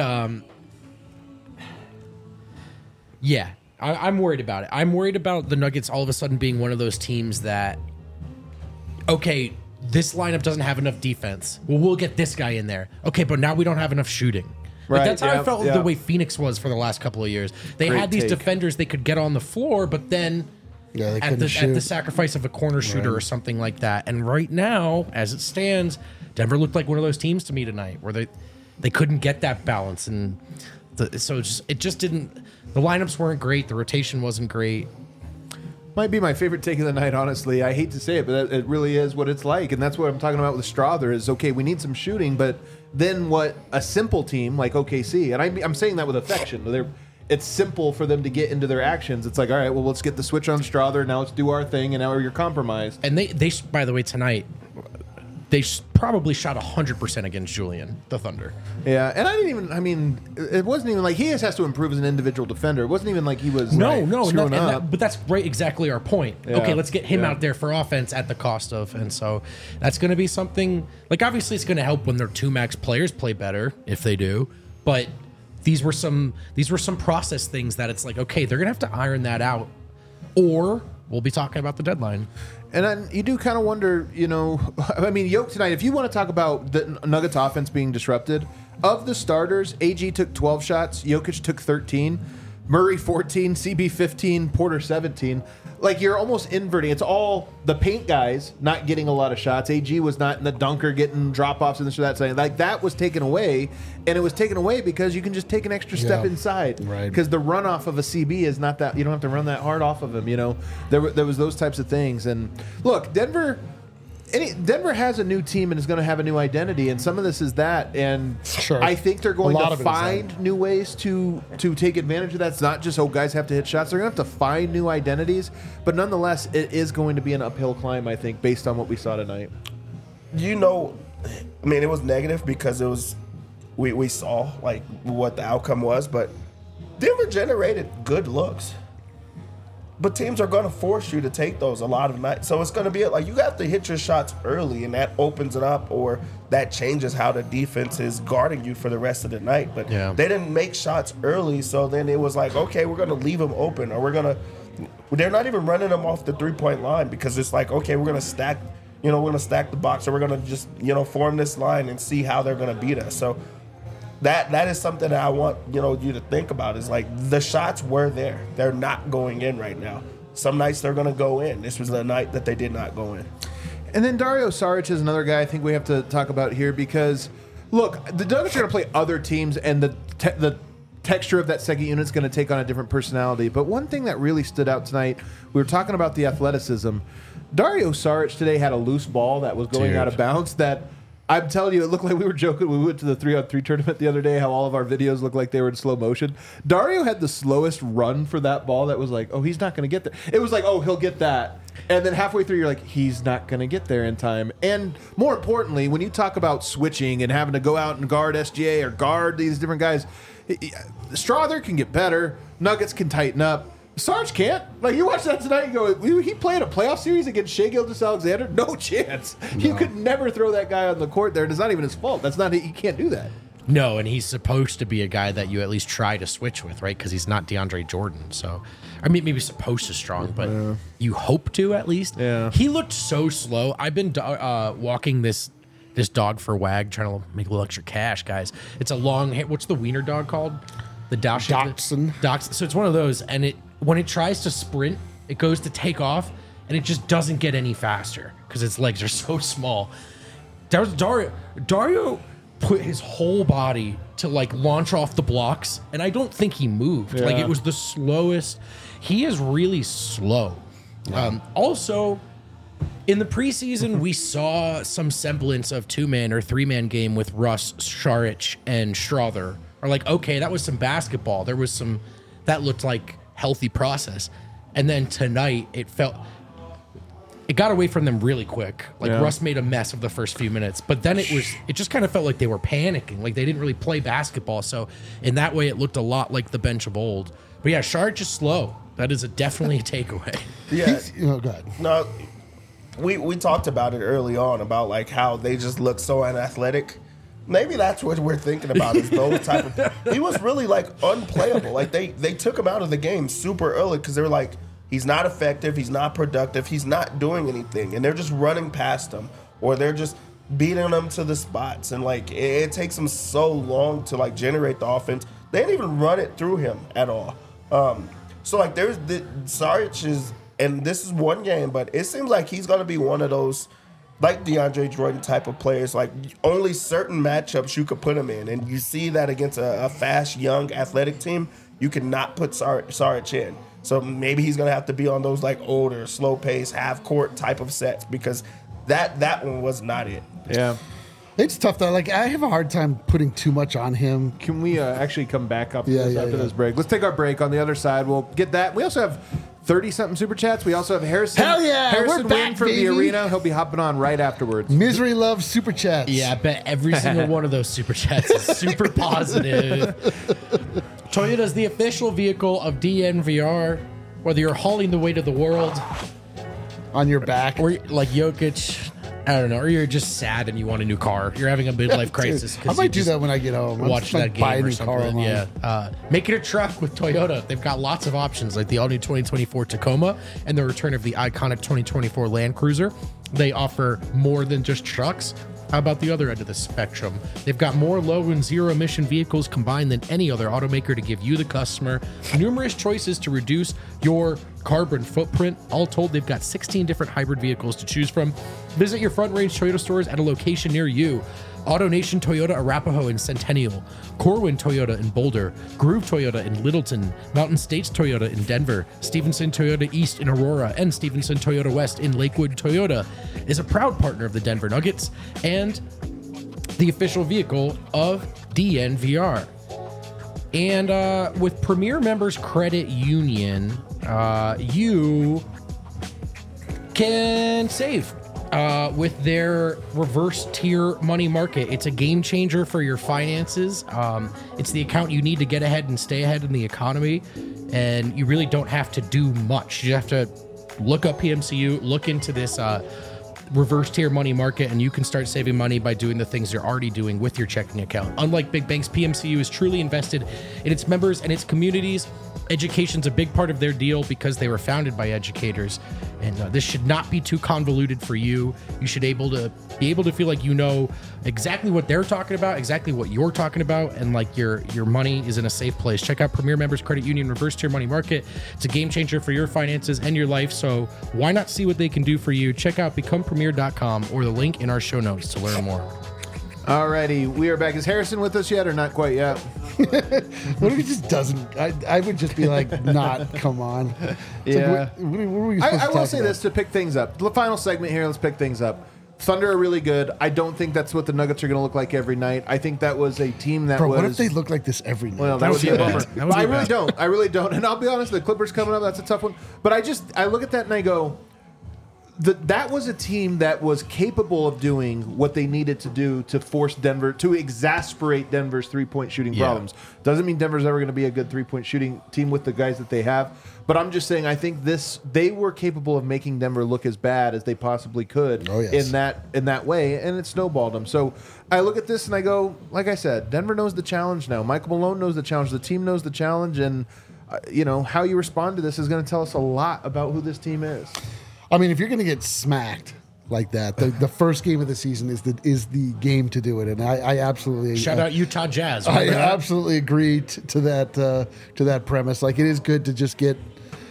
I'm worried about it. I'm worried about the Nuggets all of a sudden being one of those teams that, okay, this lineup doesn't have enough defense. Well, we'll get this guy in there. Okay, but now we don't have enough shooting. Like that's how I felt the way Phoenix was for the last couple of years. They had these defenders they could get on the floor, but then at the sacrifice of a corner shooter or something like that. And right now, as it stands, Denver looked like one of those teams to me tonight where they couldn't get that balance. And it just didn't. The lineups weren't great. The rotation wasn't great. Might be my favorite take of the night, honestly. I hate to say it, but it really is what it's like. And that's what I'm talking about with Strawther is, okay, we need some shooting, but then what a simple team like OKC, and I'm saying that with affection, it's simple for them to get into their actions. It's like, all right, well, let's get the switch on Strawther, now let's do our thing, and now you're compromised. And they by the way, tonight, they probably shot 100% against Julian, the Thunder. Yeah, and it wasn't even like he just has to improve as an individual defender. It wasn't even like he was screwing up. But that's right, exactly our point. Yeah. Okay, let's get him out there for offense at the cost of, and so that's going to be something, like obviously it's going to help when their two max players play better, if they do, but these were some process things that it's like, okay, they're going to have to iron that out, or we'll be talking about the deadline. And then you do kind of wonder, Yoke tonight, if you want to talk about the Nuggets offense being disrupted, of the starters, AG took 12 shots, Jokic took 13, Murray 14, CB 15, Porter 17. Like, you're almost inverting. It's all the paint guys not getting a lot of shots. AG was not in the dunker getting drop-offs and this or that. So, like, that was taken away, and it was taken away because you can just take an extra step inside. Right. Because the runoff of a CB is not that, you don't have to run that hard off of him, There was those types of things. And, look, Denver has a new team and is going to have a new identity, and some of this is that. And Sure. I think they're going to is find new ways to take advantage of that. It's not just, guys have to hit shots. They're going to have to find new identities. But nonetheless, it is going to be an uphill climb, I think, based on what we saw tonight. It was negative because it was we saw like what the outcome was, but Denver generated good looks. But teams are going to force you to take those a lot of nights. So it's going to be like you have to hit your shots early, and that opens it up, or that changes how the defense is guarding you for the rest of the night. But they didn't make shots early, so then it was like, okay, we're going to leave them open, or they're not even running them off the three-point line because it's like, okay, we're going to stack, we're going to stack the box, or we're going to just, form this line and see how they're going to beat us. So that is something that I want you to think about, is like the shots were there. They're not going in right now. Some nights they're going to go in. This was the night that they did not go in. And then Dario Saric is another guy I think we have to talk about here because, look, the Nuggets are going to play other teams, and the texture of that second unit is going to take on a different personality. But one thing that really stood out tonight, we were talking about the athleticism. Dario Saric today had a loose ball that was going out of bounds that – I'm telling you, it looked like we were joking. We went to the 3-on-3 tournament the other day, how all of our videos looked like they were in slow motion. Dario had the slowest run for that ball that was like, he's not going to get there. It was like, he'll get that. And then halfway through, you're like, he's not going to get there in time. And more importantly, when you talk about switching and having to go out and guard SGA or guard these different guys, Strawther can get better. Nuggets can tighten up. Sarge can't. Like, you watch that tonight and go, he played a playoff series against Shai Gilgeous-Alexander? No chance. No. You could never throw that guy on the court there, and it's not even his fault. He can't do that. No, and he's supposed to be a guy that you at least try to switch with, right? Because he's not DeAndre Jordan. So, maybe supposed to strong, but you hope to at least. Yeah. He looked so slow. I've been walking this dog for WAG, trying to make a little extra cash, guys. It's a long, what's the wiener dog called? The Dachshund. So it's one of those, and when it tries to sprint, it goes to take off, and it just doesn't get any faster because its legs are so small. That was Dario put his whole body to like launch off the blocks, and I don't think he moved. Yeah. Like, it was the slowest. He is really slow. Yeah. Also, in the preseason, we saw some semblance of 2-man or 3-man game with Russ, Saric, and Strawther. Or like, okay, that was some basketball. There was some that looked like healthy process. And then tonight it got away from them really quick. Like, Russ made a mess of the first few minutes, but then it just kind of felt like they were panicking. Like, they didn't really play basketball. So in that way, it looked a lot like the bench of old. But yeah, Saric is slow. That is definitely a takeaway. Yeah. Go ahead. No, we talked about it early on about like how they just look so unathletic. Maybe that's what we're thinking about, is those type of. He was really like unplayable. Like they took him out of the game super early because they were like, he's not effective, he's not productive, he's not doing anything, and they're just running past him, or they're just beating him to the spots, and like it takes them so long to like generate the offense. They didn't even run it through him at all. So like there's the Saric is, and this is one game, but it seems like he's gonna be one of those, like DeAndre Jordan type of players, like only certain matchups you could put him in. And you see that against a fast, young, athletic team, you cannot put Saric in. So maybe he's going to have to be on those like older, slow pace, half court type of sets, because that one was not it. Yeah. It's tough though. Like, I have a hard time putting too much on him. Can we actually come back up after this break? Let's take our break. On the other side, we'll get that. We also have 30-something super chats. We also have Harrison. Hell yeah, Harrison we're back, Wynn from baby. the arena. He'll be hopping on right afterwards. Misery loves super chats. Yeah, I bet every single one of those super chats is super positive. Toyota's the official vehicle of DNVR. Whether you're hauling the weight of the world, On your back. or like Jokic, I don't know, or you're just sad and you want a new car. You're having a midlife crisis. I 'cause might you do just that when I get home. watch that buy a game or new car something. online. Yeah, make it a truck with Toyota. They've got lots of options, like the all-new 2024 Tacoma and the return of the iconic 2024 Land Cruiser. They offer more than just trucks. How about the other end of the spectrum? They've got more low and zero emission vehicles combined than any other automaker to give you, the customer, numerous choices to reduce your carbon footprint. All told, they've got 16 different hybrid vehicles to choose from. Visit your Front Range Toyota stores at a location near you. AutoNation Toyota Arapahoe in Centennial, Corwin Toyota in Boulder, Groove Toyota in Littleton, Mountain States Toyota in Denver, Stevenson Toyota East in Aurora, and Stevenson Toyota West in Lakewood. Toyota is a proud partner of the Denver Nuggets and the official vehicle of DNVR. And with Premier Members Credit Union, you can save with their reverse tier money market. It's a game changer for your finances. It's the account you need to get ahead and stay ahead in the economy. And you really don't have to do much. You have to look up PMCU, look into this reverse tier money market, and you can start saving money by doing the things you're already doing with your checking account. Unlike big banks, PMCU is truly invested in its members and its communities. Education's a big part of their deal because they were founded by educators, and this should not be too convoluted for you. You should be able to feel like you know exactly what they're talking about, exactly what you're talking about, and like your money is in a safe place. Check out Premier Members Credit Union Reverse Tier Money Market. It's a game changer for your finances and your life, so why not see what they can do for you? Check out becomepremier.com or the link in our show notes to learn more. Alrighty, we are back. Is Harrison with us yet or not quite yet? What if he just doesn't? I would just be like, not, come on. It's Yeah. like, what are we supposed I to will talk say about? this to pick things up. The final segment here, let's pick things up. Thunder are really good. I don't think that's what the Nuggets are going to look like every night. I think that was a team that Bro, was... what if they look like this every night? Well, that would be a bummer. That would But be I really bad. don't. I really don't. And I'll be honest, the Clippers coming up, that's a tough one. But I look at that and I go, that was a team that was capable of doing what they needed to do to force Denver, to exasperate Denver's three-point shooting problems. Doesn't mean Denver's ever going to be a good three-point shooting team with the guys that they have. But I'm just saying, I think they were capable of making Denver look as bad as they possibly could in that way, and it snowballed them. So I look at this and I go, like I said, Denver knows the challenge now. Michael Malone knows the challenge. The team knows the challenge, and how you respond to this is going to tell us a lot about who this team is. I mean, if you're going to get smacked like that, the first game of the season is the game to do it, and I absolutely Shout out Utah Jazz. I Remember that? absolutely agree to that premise. Like, it is good to just get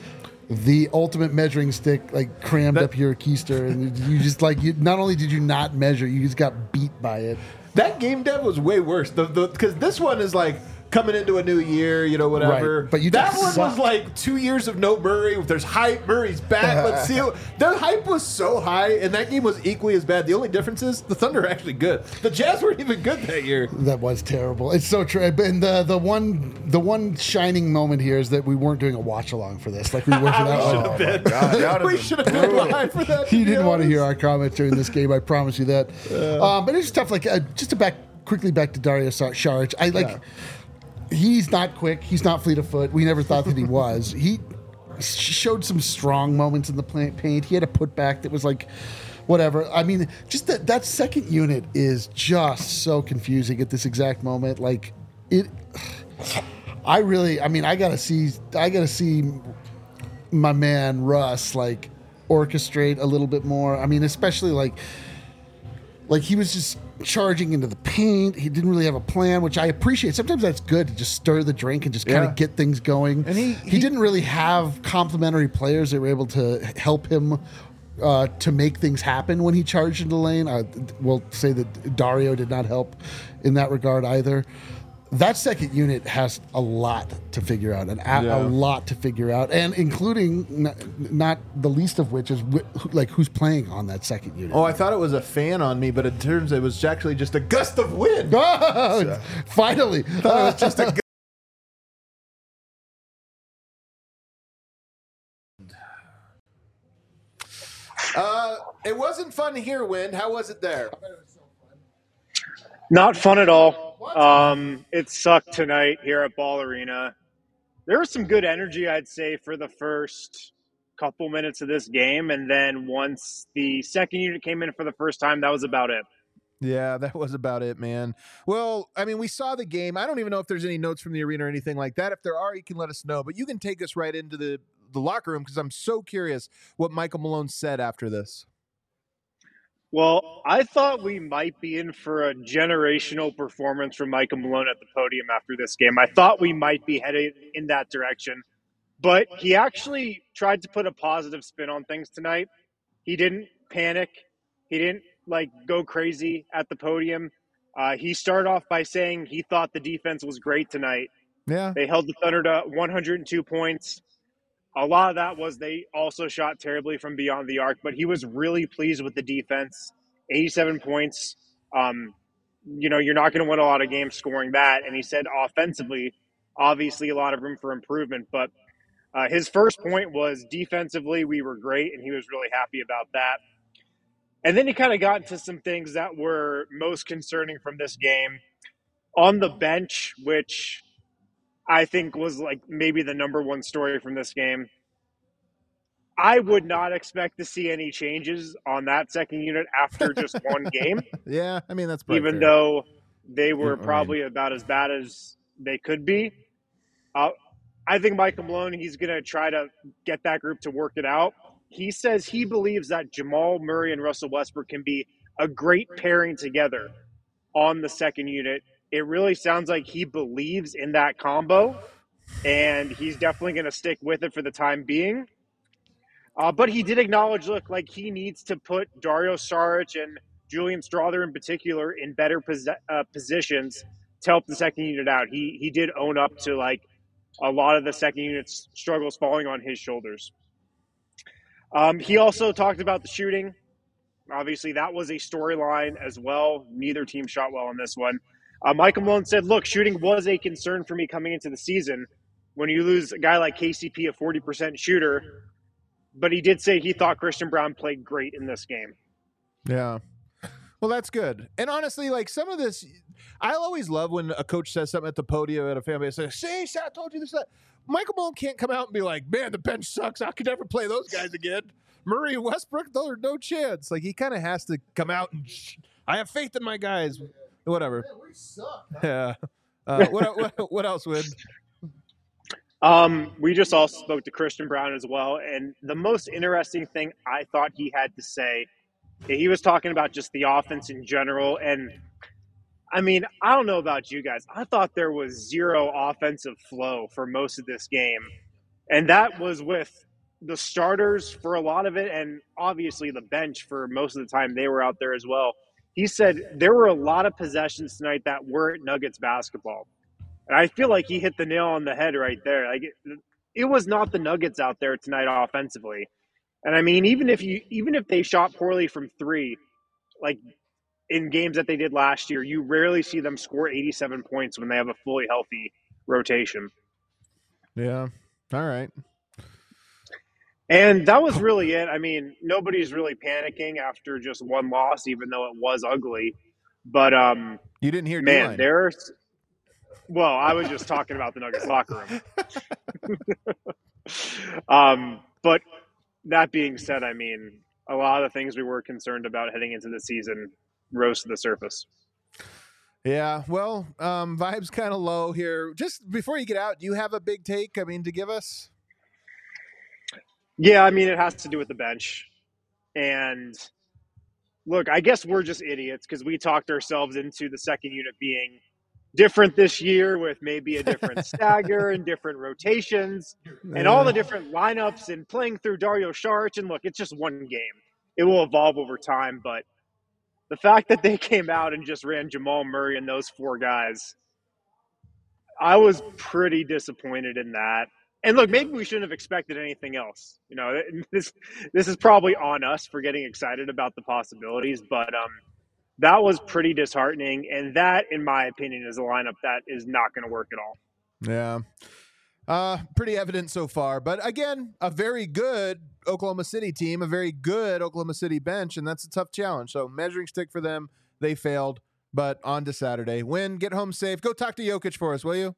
the ultimate measuring stick like crammed up your keister, and you just not only did you not measure, you just got beat by it. That game, Dev, was way worse. Because this one is like coming into a new year, whatever. Right. But that one sucked. was like 2 years of no Murray. There's hype. Murray's back. Let's see. The hype was so high, and that game was equally as bad. The only difference is the Thunder are actually good. The Jazz weren't even good that year. That was terrible. It's so true. And the one shining moment here is that we weren't doing a watch along for this, like we were for that one. We should have been live for that. He didn't want to hear our comments during this game. I promise you that. But it's tough. Like just to quickly back to Dario Saric. He's not quick. He's not fleet of foot. We never thought that he was. He showed some strong moments in the paint. He had a putback that was like, whatever. I mean, just that second unit is just so confusing at this exact moment. Like it. I gotta see my man Russ orchestrate a little bit more. I mean, especially like he was just charging into the paint. He didn't really have a plan, which I appreciate. Sometimes that's good to just stir the drink and just kind of get things going. And he didn't really have complementary players that were able to help him to make things happen when he charged into the lane. We'll say that Dario did not help in that regard either. That second unit has a lot to figure out, a lot to figure out, and including not the least of which is who's playing on that second unit. Oh, I thought it was a fan on me, but it turns it was actually just a gust of wind. Oh, finally. It was just a It wasn't fun here, Wind. How was it there? Not fun at all. It sucked tonight here at Ball Arena. There was some good energy, I'd say, for the first couple minutes of this game. And then once the second unit came in for the first time, that was about it. Yeah, that was about it, man. Well, I mean, we saw the game. I don't even know if there's any notes from the arena or anything like that. If there are, you can let us know. But you can take us right into the locker room because I'm so curious what Michael Malone said after this. Well, I thought we might be in for a generational performance from Michael Malone at the podium after this game. I thought we might be headed in that direction. But he actually tried to put a positive spin on things tonight. He didn't panic. He didn't go crazy at the podium. He started off by saying he thought the defense was great tonight. Yeah. They held the Thunder to 102 points. A lot of that was they also shot terribly from beyond the arc, but he was really pleased with the defense. 87 points. You're not going to win a lot of games scoring that. And he said offensively, obviously a lot of room for improvement. But his first point was defensively, we were great, and he was really happy about that. And then he kind of got into some things that were most concerning from this game. On the bench, which I think was maybe the number one story from this game. I would not expect to see any changes on that second unit after just one game. Yeah, I mean, that's probably even fair. though they were probably about as bad as they could be. I think Michael Malone, he's going to try to get that group to work it out. He says he believes that Jamal Murray and Russell Westbrook can be a great pairing together on the second unit. It really sounds like he believes in that combo, and he's definitely going to stick with it for the time being. But he did acknowledge, he needs to put Dario Saric and Julian Strawther in particular in better positions to help the second unit out. He did own up to a lot of the second unit's struggles falling on his shoulders. He also talked about the shooting. Obviously, that was a storyline as well. Neither team shot well in this one. Michael Malone said, look, shooting was a concern for me coming into the season. When you lose a guy like KCP, a 40% shooter, but he did say he thought Christian Braun played great in this game. Yeah. Well, that's good. And honestly, some of this, I always love when a coach says something at the podium at a fan base, like, see, I told you this, that. Michael Malone can't come out and be like, man, the bench sucks. I could never play those guys again. Murray and Westbrook, those are no chance. He kind of has to come out and I have faith in my guys. Whatever. Yeah, we suck. Yeah. What else, Wood? We just also spoke to Christian Braun as well. And the most interesting thing I thought he had to say, he was talking about just the offense in general. And I mean, I don't know about you guys. I thought there was zero offensive flow for most of this game. And that was with the starters for a lot of it. And obviously the bench for most of the time they were out there as well. He said there were a lot of possessions tonight that weren't Nuggets basketball. And I feel like he hit the nail on the head right there. It was not the Nuggets out there tonight offensively. And I mean, even if they shot poorly from three, in games that they did last year, you rarely see them score 87 points when they have a fully healthy rotation. Yeah. All right. And that was really it. I mean, nobody's really panicking after just one loss, even though it was ugly. But you didn't hear man, well, I was just talking about the Nuggets locker room. But that being said, I mean, a lot of the things we were concerned about heading into the season rose to the surface. Yeah, well, vibes kind of low here. Just before you get out, do you have a big take, to give us? Yeah, I mean, it has to do with the bench. And look, I guess we're just idiots because we talked ourselves into the second unit being different this year with maybe a different stagger and different rotations and all the different lineups and playing through Dario Saric. And look, it's just one game. It will evolve over time. But the fact that they came out and just ran Jamal Murray and those four guys, I was pretty disappointed in that. And look, maybe we shouldn't have expected anything else. This is probably on us for getting excited about the possibilities, but that was pretty disheartening. And that, in my opinion, is a lineup that is not going to work at all. Yeah. Pretty evident so far. But again, a very good Oklahoma City team, a very good Oklahoma City bench, and that's a tough challenge. So measuring stick for them, they failed. But on to Saturday. Win, get home safe. Go talk to Jokic for us, will you?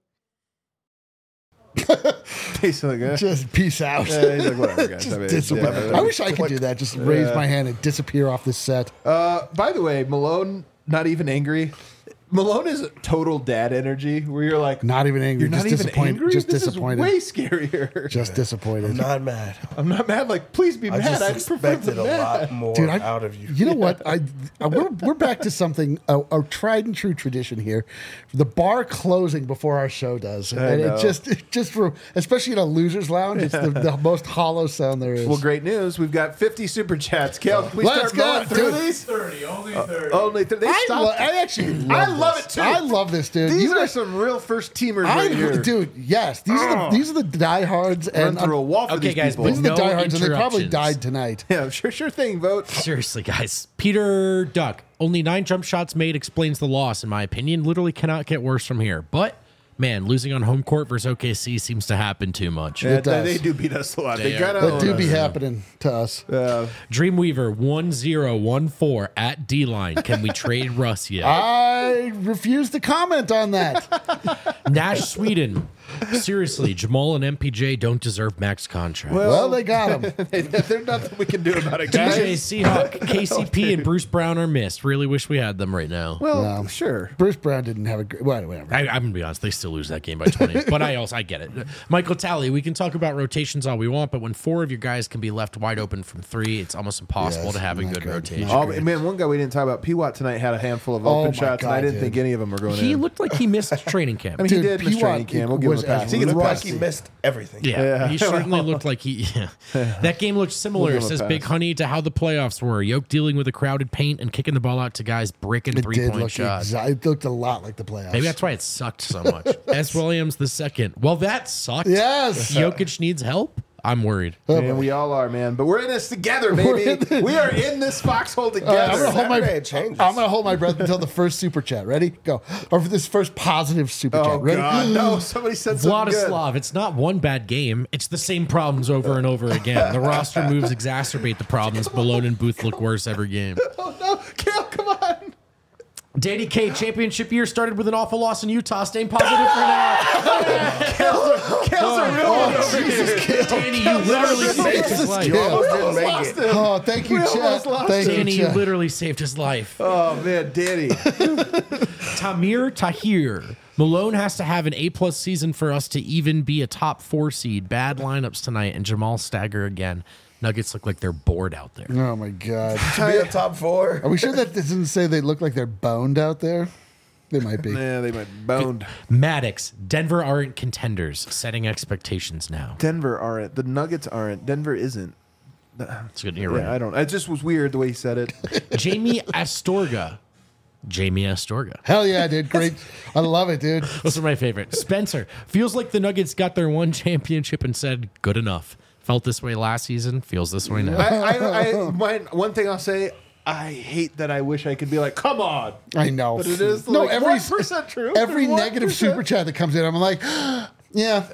He's like, just peace out. He's like, whatever, guys. I wish I could do that. Just raise my hand and disappear off this set. By the way, Malone, not even angry. Malone is total dad energy where you're like, not even angry, you're just not even disappointed. angry? Just this disappointed. Is way scarier. Just disappointed. I'm not mad. I'm not mad. Like, please be mad. I expected a lot more out of you. You know what? We're back to something, a tried and true tradition here. The bar closing before our show does. And it just for, especially in a loser's lounge, it's the most hollow sound there is. Well, great news. We've got 50 super chats. Kel, can we Let's start go, going through dude. these? 30, only 30. Only 30. I love it too. I love this, dude. These are some real first teamers right here. Dude, yes. These are the diehards. Run And through a wall for Okay, these guys, people. these are the No diehards, and they probably interruptions. died tonight. Yeah, sure thing, vote. Seriously, guys. Peter Duck, only 9 jump shots made explains the loss, in my opinion. Literally cannot get worse from here. But, man, losing on home court versus OKC seems to happen too much. It does. They do beat us a lot. They They gotta That own do us. be happening to us. Dreamweaver 1014 at D-line. Can we trade Russ yet? I refuse to comment on that. Nash Sweden. Seriously, Jamal and MPJ don't deserve max contract. Well, they got him. There's nothing we can do about it, DJ guys. Seahawk, KCP, and Bruce Brown are missed. Really wish we had them right now. Well, sure. Bruce Brown didn't have a great. Whatever. I'm gonna be honest, they still lose that game by 20. But I get it. Michael Talley, we can talk about rotations all we want, but when 4 of your guys can be left wide open from 3, it's almost impossible Yes, to have a not good good. rotation. Not Oh, man, one guy we didn't talk about, P-Watt tonight had a handful of Oh open my shots, and I God, didn't dude. think any of them were going He in. looked like he missed training camp. I mean, he did miss P-Watt training camp. We'll give him was a pass. as He gets a rusty. pass. He missed everything. Yeah, he certainly looked like he. That game looked similar, We'll give him a says pass. Big Honey, to how the playoffs were. Yoke dealing with a crowded paint and kicking the ball out to guys bricking It did 3-point look shots. it looked a lot like the playoffs. Maybe that's why it sucked so much. S. Williams the second. Well, that sucked. Yes. Jokic needs help. I'm worried. Man, we all are, man. But we're in this together, baby. We are in this foxhole together. I'm gonna hold my breath until the first super chat. Ready? Go. Or for this first positive super Oh, chat. Ready? God. No, somebody said something good. Vladislav, it's not one bad game. It's the same problems over and over again. The roster moves exacerbate the problems. Malone and Booth look worse every game. Oh, no. Kel, come on. Danny K, championship year started with an awful loss in Utah. Staying positive for now. Kel's a real one over here. Danny, you literally saved his life. You almost didn't make it. Oh, thank you, We chat. almost lost Thank Danny, you, you chat. literally saved his life. Oh, man, Danny. Tamir Tahir. Malone has to have an A+ season for us to even be a top 4 seed. Bad lineups tonight, and Jamal stagger again. Nuggets look like they're bored out there. Oh my God. To be a top 4. Are we sure that doesn't say they look like they're boned out there? They might be. Yeah, they might be boned. Maddox, Denver aren't contenders. Setting expectations now. Denver aren't. The Nuggets aren't. Denver isn't. It's good. You're Yeah, I right. don't. It just was weird the way he said it. Jamie Astorga. Hell yeah, dude. Great. I love it, dude. Those are my favorite. Spencer. Feels like the Nuggets got their one championship and said, good enough. Felt this way last season. Feels this way now. One thing I'll say, I hate that I wish I could be like, come on. I know. But it is no, like every 1% true. Every 1%. negative super chat that comes in, I'm like, yeah.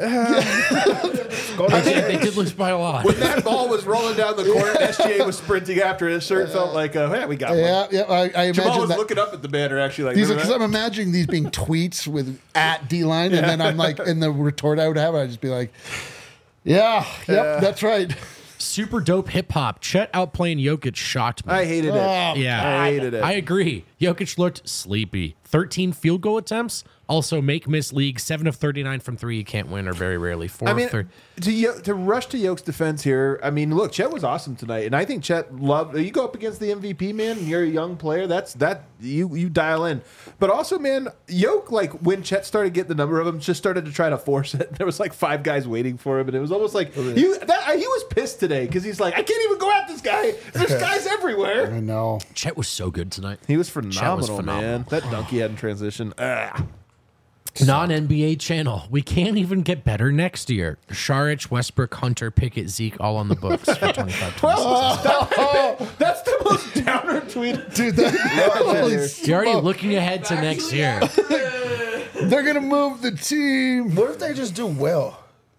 They did lose by a lot. When that ball was rolling down the court, SGA was sprinting after it. It sure felt like, yeah, we got one. Yeah. I Jamal imagine was that. looking up at the banner actually like, These are remember because that? I'm imagining these being tweets with at D-line, and then I'm like, in the retort I would have, I'd just be like, yeah, yep, that's right. Super dope hip hop. Chet outplaying Jokic shocked me. I hated it. Yeah, I hated it. I agree. Jokic looked sleepy. 13 field goal attempts. Also, make miss league. 7 of 39 from 3. You can't win, or very rarely. 4 I of mean, 30. to rush to Yoke's defense here, I mean, look, Chet was awesome tonight, and I think Chet loved. You go up against the MVP, man. And you're a young player. You dial in. But also, man, Yoke, like when Chet started getting the number of them, just started to try to force it. There was like 5 guys waiting for him, and it was almost like he was pissed today because he's like, I can't even go at this guy. There's guys everywhere. I know. Chet was so good tonight. He was phenomenal, phenomenal. man. That dunk he had in transition. Non-NBA channel. We can't even get better next year. Saric, Westbrook, Hunter, Pickett, Zeke, all on the books for 25. That's the most downer tweet. Dude, You're already looking ahead to next year. they're going to move the team. What if they just do well?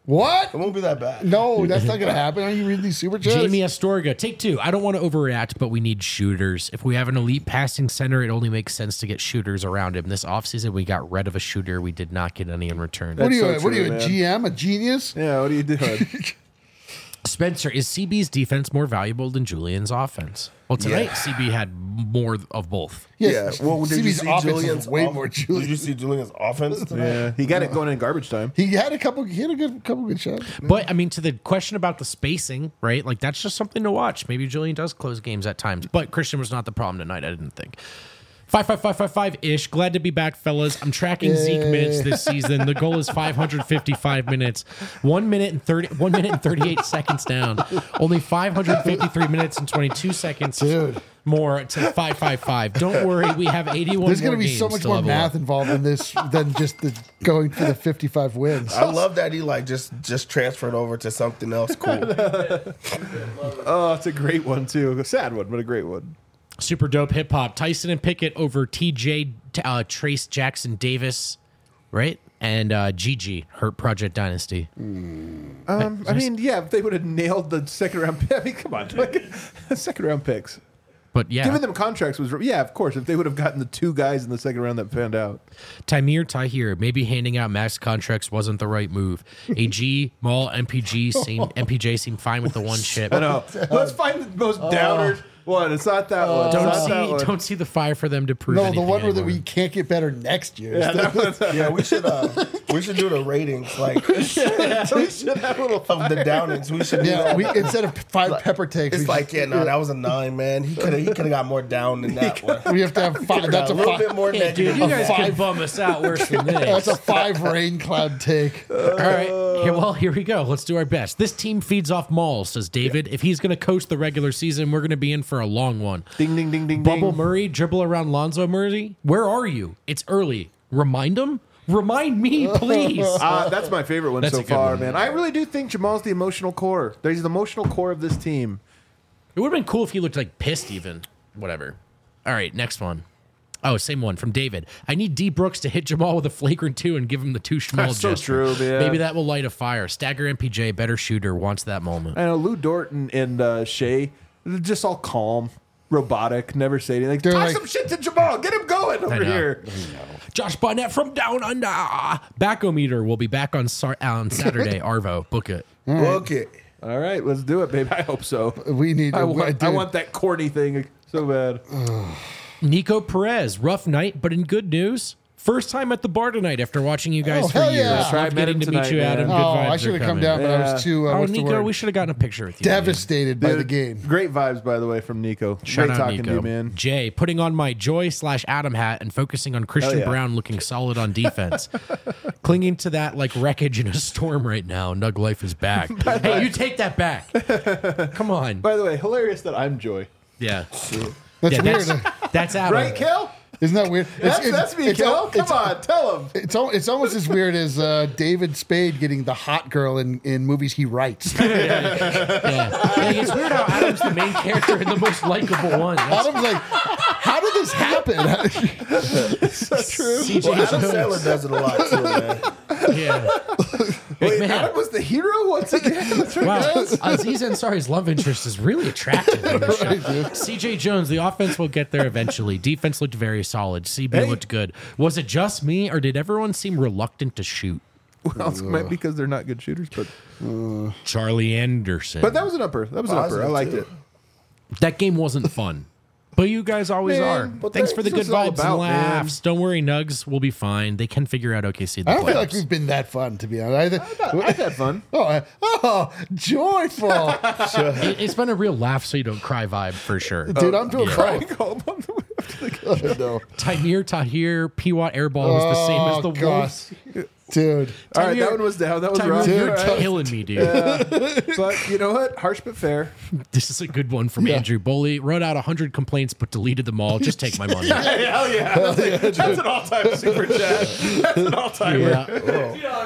What? It won't be that bad. No, that's not going to happen. Are you reading these super chats? Jamie Astorga, take 2. I don't want to overreact, but we need shooters. If we have an elite passing center, it only makes sense to get shooters around him. This offseason, we got rid of a shooter. We did not get any in return. What are you, so what are you, true, a man. GM, a genius? Yeah, what are you doing? Spencer, is CB's defense more valuable than Julian's offense? Well, tonight, Yeah. CB had more of both. Yeah. Well, did you CB's see offense is Julian's way off- more Did Julian. you see Julian's offense tonight? Yeah, he got it going in garbage time. He had a couple good shots. But, I mean, to the question about the spacing, right? Like, that's just something to watch. Maybe Julian does close games at times. But Christian was not the problem tonight, I didn't think. 5-5-5-5-5-ish. Glad to be back, fellas. I'm tracking Zeke minutes this season. The goal is 555 minutes. 1 minute and 38 seconds down. Only 553 minutes and 22 seconds Dude. more to 555. Don't worry, we have 81 There's more going to be so games much to more level math up. involved in this than just the going for the 55 wins. I love that he like just transferred over to something else cool. Oh, it's a great one too. A sad one, but a great one. Super dope hip hop. Tyson and Pickett over TJ, Trace Jackson Davis, right? And GG, Hurt Project Dynasty. I mean, yeah, if they would have nailed the second round pick. I mean, come on, like, second round picks. But yeah, Giving them contracts was, yeah, of course. If they would have gotten the 2 guys in the second round that panned out. Tahir, maybe handing out max contracts wasn't the right move. AG, Maul, MPJ seemed fine with the one chip. I know. Let's find the most downers one. It's not that one. It's not that one. Don't see the fire for them to prove. No, the anything one where that anymore. we can't get better next year. Yeah, that one's Yeah, we should do the ratings like we should have a little of the downings. We should do Yeah, that. we instead of 5 pepper takes, It's we like, yeah, no, that was a 9, man. He could have got more down than that one. we have to have 5. That's a a little 5. bit more Hey, dude, negative. you guys five- can bum us out worse than That's this. a 5 rain cloud take. All right, here we go. Let's do our best. This team feeds off Maul, says David. If he's going to coach the regular season, we're going to be in for a long one. ding, ding, ding, ding, Bubble ding. Murray, dribble around Lonzo Murray. Where are you? It's early. Remind him? Remind me, please. That's my favorite one That's so a good far, one. man. I really do think Jamal's the emotional core. He's the emotional core of this team. It would have been cool if he looked like pissed even. Whatever. All right, next one. Oh, same one from David. I need D. Brooks to hit Jamal with a flagrant 2 and give him the too small That's so gesture. true, man. Maybe that will light a fire. Stagger MPJ, better shooter, wants that moment. I know Lou Dort and Shea, they're just all calm, robotic, never say anything. Like, They're talk like- some shit to Jamal. Get him going over know. here. Josh Barnett from Down Under. Backometer will be back on Saturday. Arvo, book it. Okay. All right, let's do it, babe. I hope so. We need. I want dude, that corny thing so bad. Nico Perez, rough night, but in good news. First time at the bar tonight after watching you guys Oh, for hell years. yeah. Love Right, met getting him to meet tonight, you, man. Adam. Good Oh, vibes I should are have come coming. down, but I Yeah. was too. Oh, what's the Nico, word? we should have gotten a picture with you. Devastated by Dude, the game. Great vibes, by the way, from Nico. Shout Great out talking Nico. to you, man. Jay, putting on my Joy/Adam hat and focusing on Christian Hell yeah. Brown looking solid on defense. Clinging to that like wreckage in a storm right now. Nug life is back. Hey, you take that back. Come on. By the way, hilarious that I'm Joy. Yeah. That's Yeah, weird. that's Adam. Right, Kel? Isn't that weird? That's me, Kel. Come on, tell him. It's almost as weird as David Spade getting the hot girl in movies he writes. Yeah. Like, it's weird how Adam's the main character and the most likable one. That's Adam's like, how did this happen? So true. CJ Well, Adam Jones. Sandler does it a lot too, man. Yeah. Wait, Man. Adam was the hero once again? That's right. Wow, Aziz Ansari's love interest is really attractive. In this show. CJ Jones, the offense will get there eventually. Defense looked very solid. CB Hey. looked good. Was it just me, or did everyone seem reluctant to shoot? Well, it might be because they're not good shooters, but Charlie Anderson. that was an upper. That was an upper. I Positive, liked too. it. That game wasn't fun. But you guys always Man, are. but Thanks that's for the what good it's all vibes about, and laughs. Don't worry, Nugs will be fine. They can figure out OKC in the I don't feel playoffs. like we've been that fun, to be honest. I've had fun. Joyful. It's been a real laugh so you don't cry vibe for sure. Dude, I'm doing Crying both. home on the way up to the No. Tahir, P-Watt airball was the same as the gosh. Wolves. Dude. All right, Tahir- that one was down. That was Tahir, rough. you're All right. killing me, dude. But you know what? Harsh but fair. This is a good one from Andrew Boley. Wrote out 100 complaints but deleted them all. Just take my money. Hey, hell yeah. That's an all-time super chat. That's an all-timer. Yeah.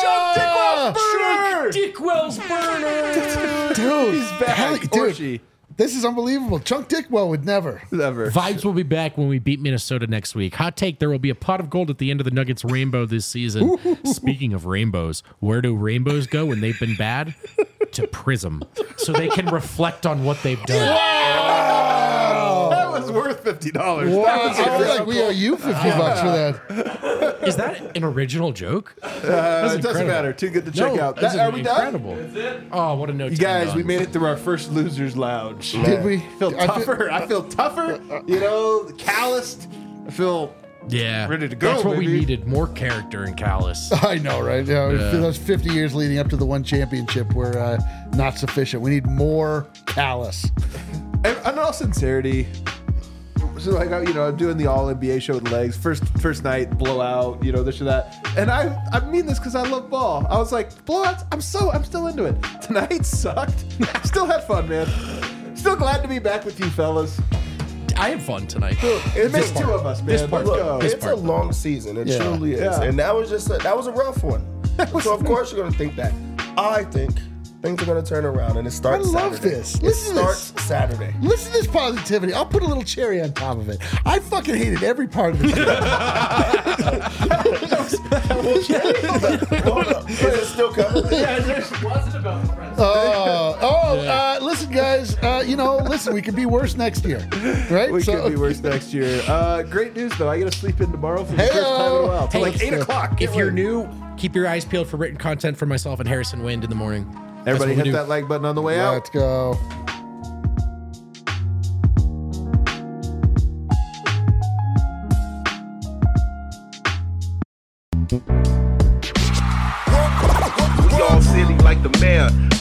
Oh! Chuck Dickwell Burner! Dick Wells burner. Dude. He's back. Hell, Or dude. she. This is unbelievable. Chunk Dickwell would never. Never. Vibes will be back when we beat Minnesota next week. Hot take, there will be a pot of gold at the end of the Nuggets rainbow this season. Speaking of rainbows, where do rainbows go when they've been bad? To Prism. So they can reflect on what they've done. That was worth $50. Wow. I feel like we owe you $50 for that. Is that an original joke? It doesn't matter. Too good to check out. That's Are we incredible. done? Oh, what a note. You guys, we made it through our first Losers Lounge. Did we? I feel tougher. You know, calloused. I feel Yeah. ready to go, That's what we baby. needed. More character in Callus. I know, right? Those 50 years leading up to the one championship were not sufficient. We need more Callus. And in all sincerity, so like I'm doing the All NBA show with Legs. First night blowout, this or that. And I mean this because I love ball. I was like, blowouts. I'm still into it. Tonight sucked. Still had fun, man. Still glad to be back with you fellas. I had fun tonight. It makes two of us, man. This part. Let's go. It's a long season. It truly is. Yeah. And that was a rough one. So of course you're gonna think that. I think things are gonna turn around, and it starts. I love Saturday. this. It Listen to starts this. Saturday. Listen to this positivity. I'll put a little cherry on top of it. I fucking hated every part of this. Hold up. Is it still coming? Listen, guys. Listen, we could be worse next year, right? We could be worse next year. Great news though. I get to sleep in tomorrow for the first time in a while. Till like 8 o'clock. If you're new, keep your eyes peeled for written content from myself and Harrison Wind in the morning. Everybody That's what we hit do. that like button on the way out. Let's go. We all silly like the mayor.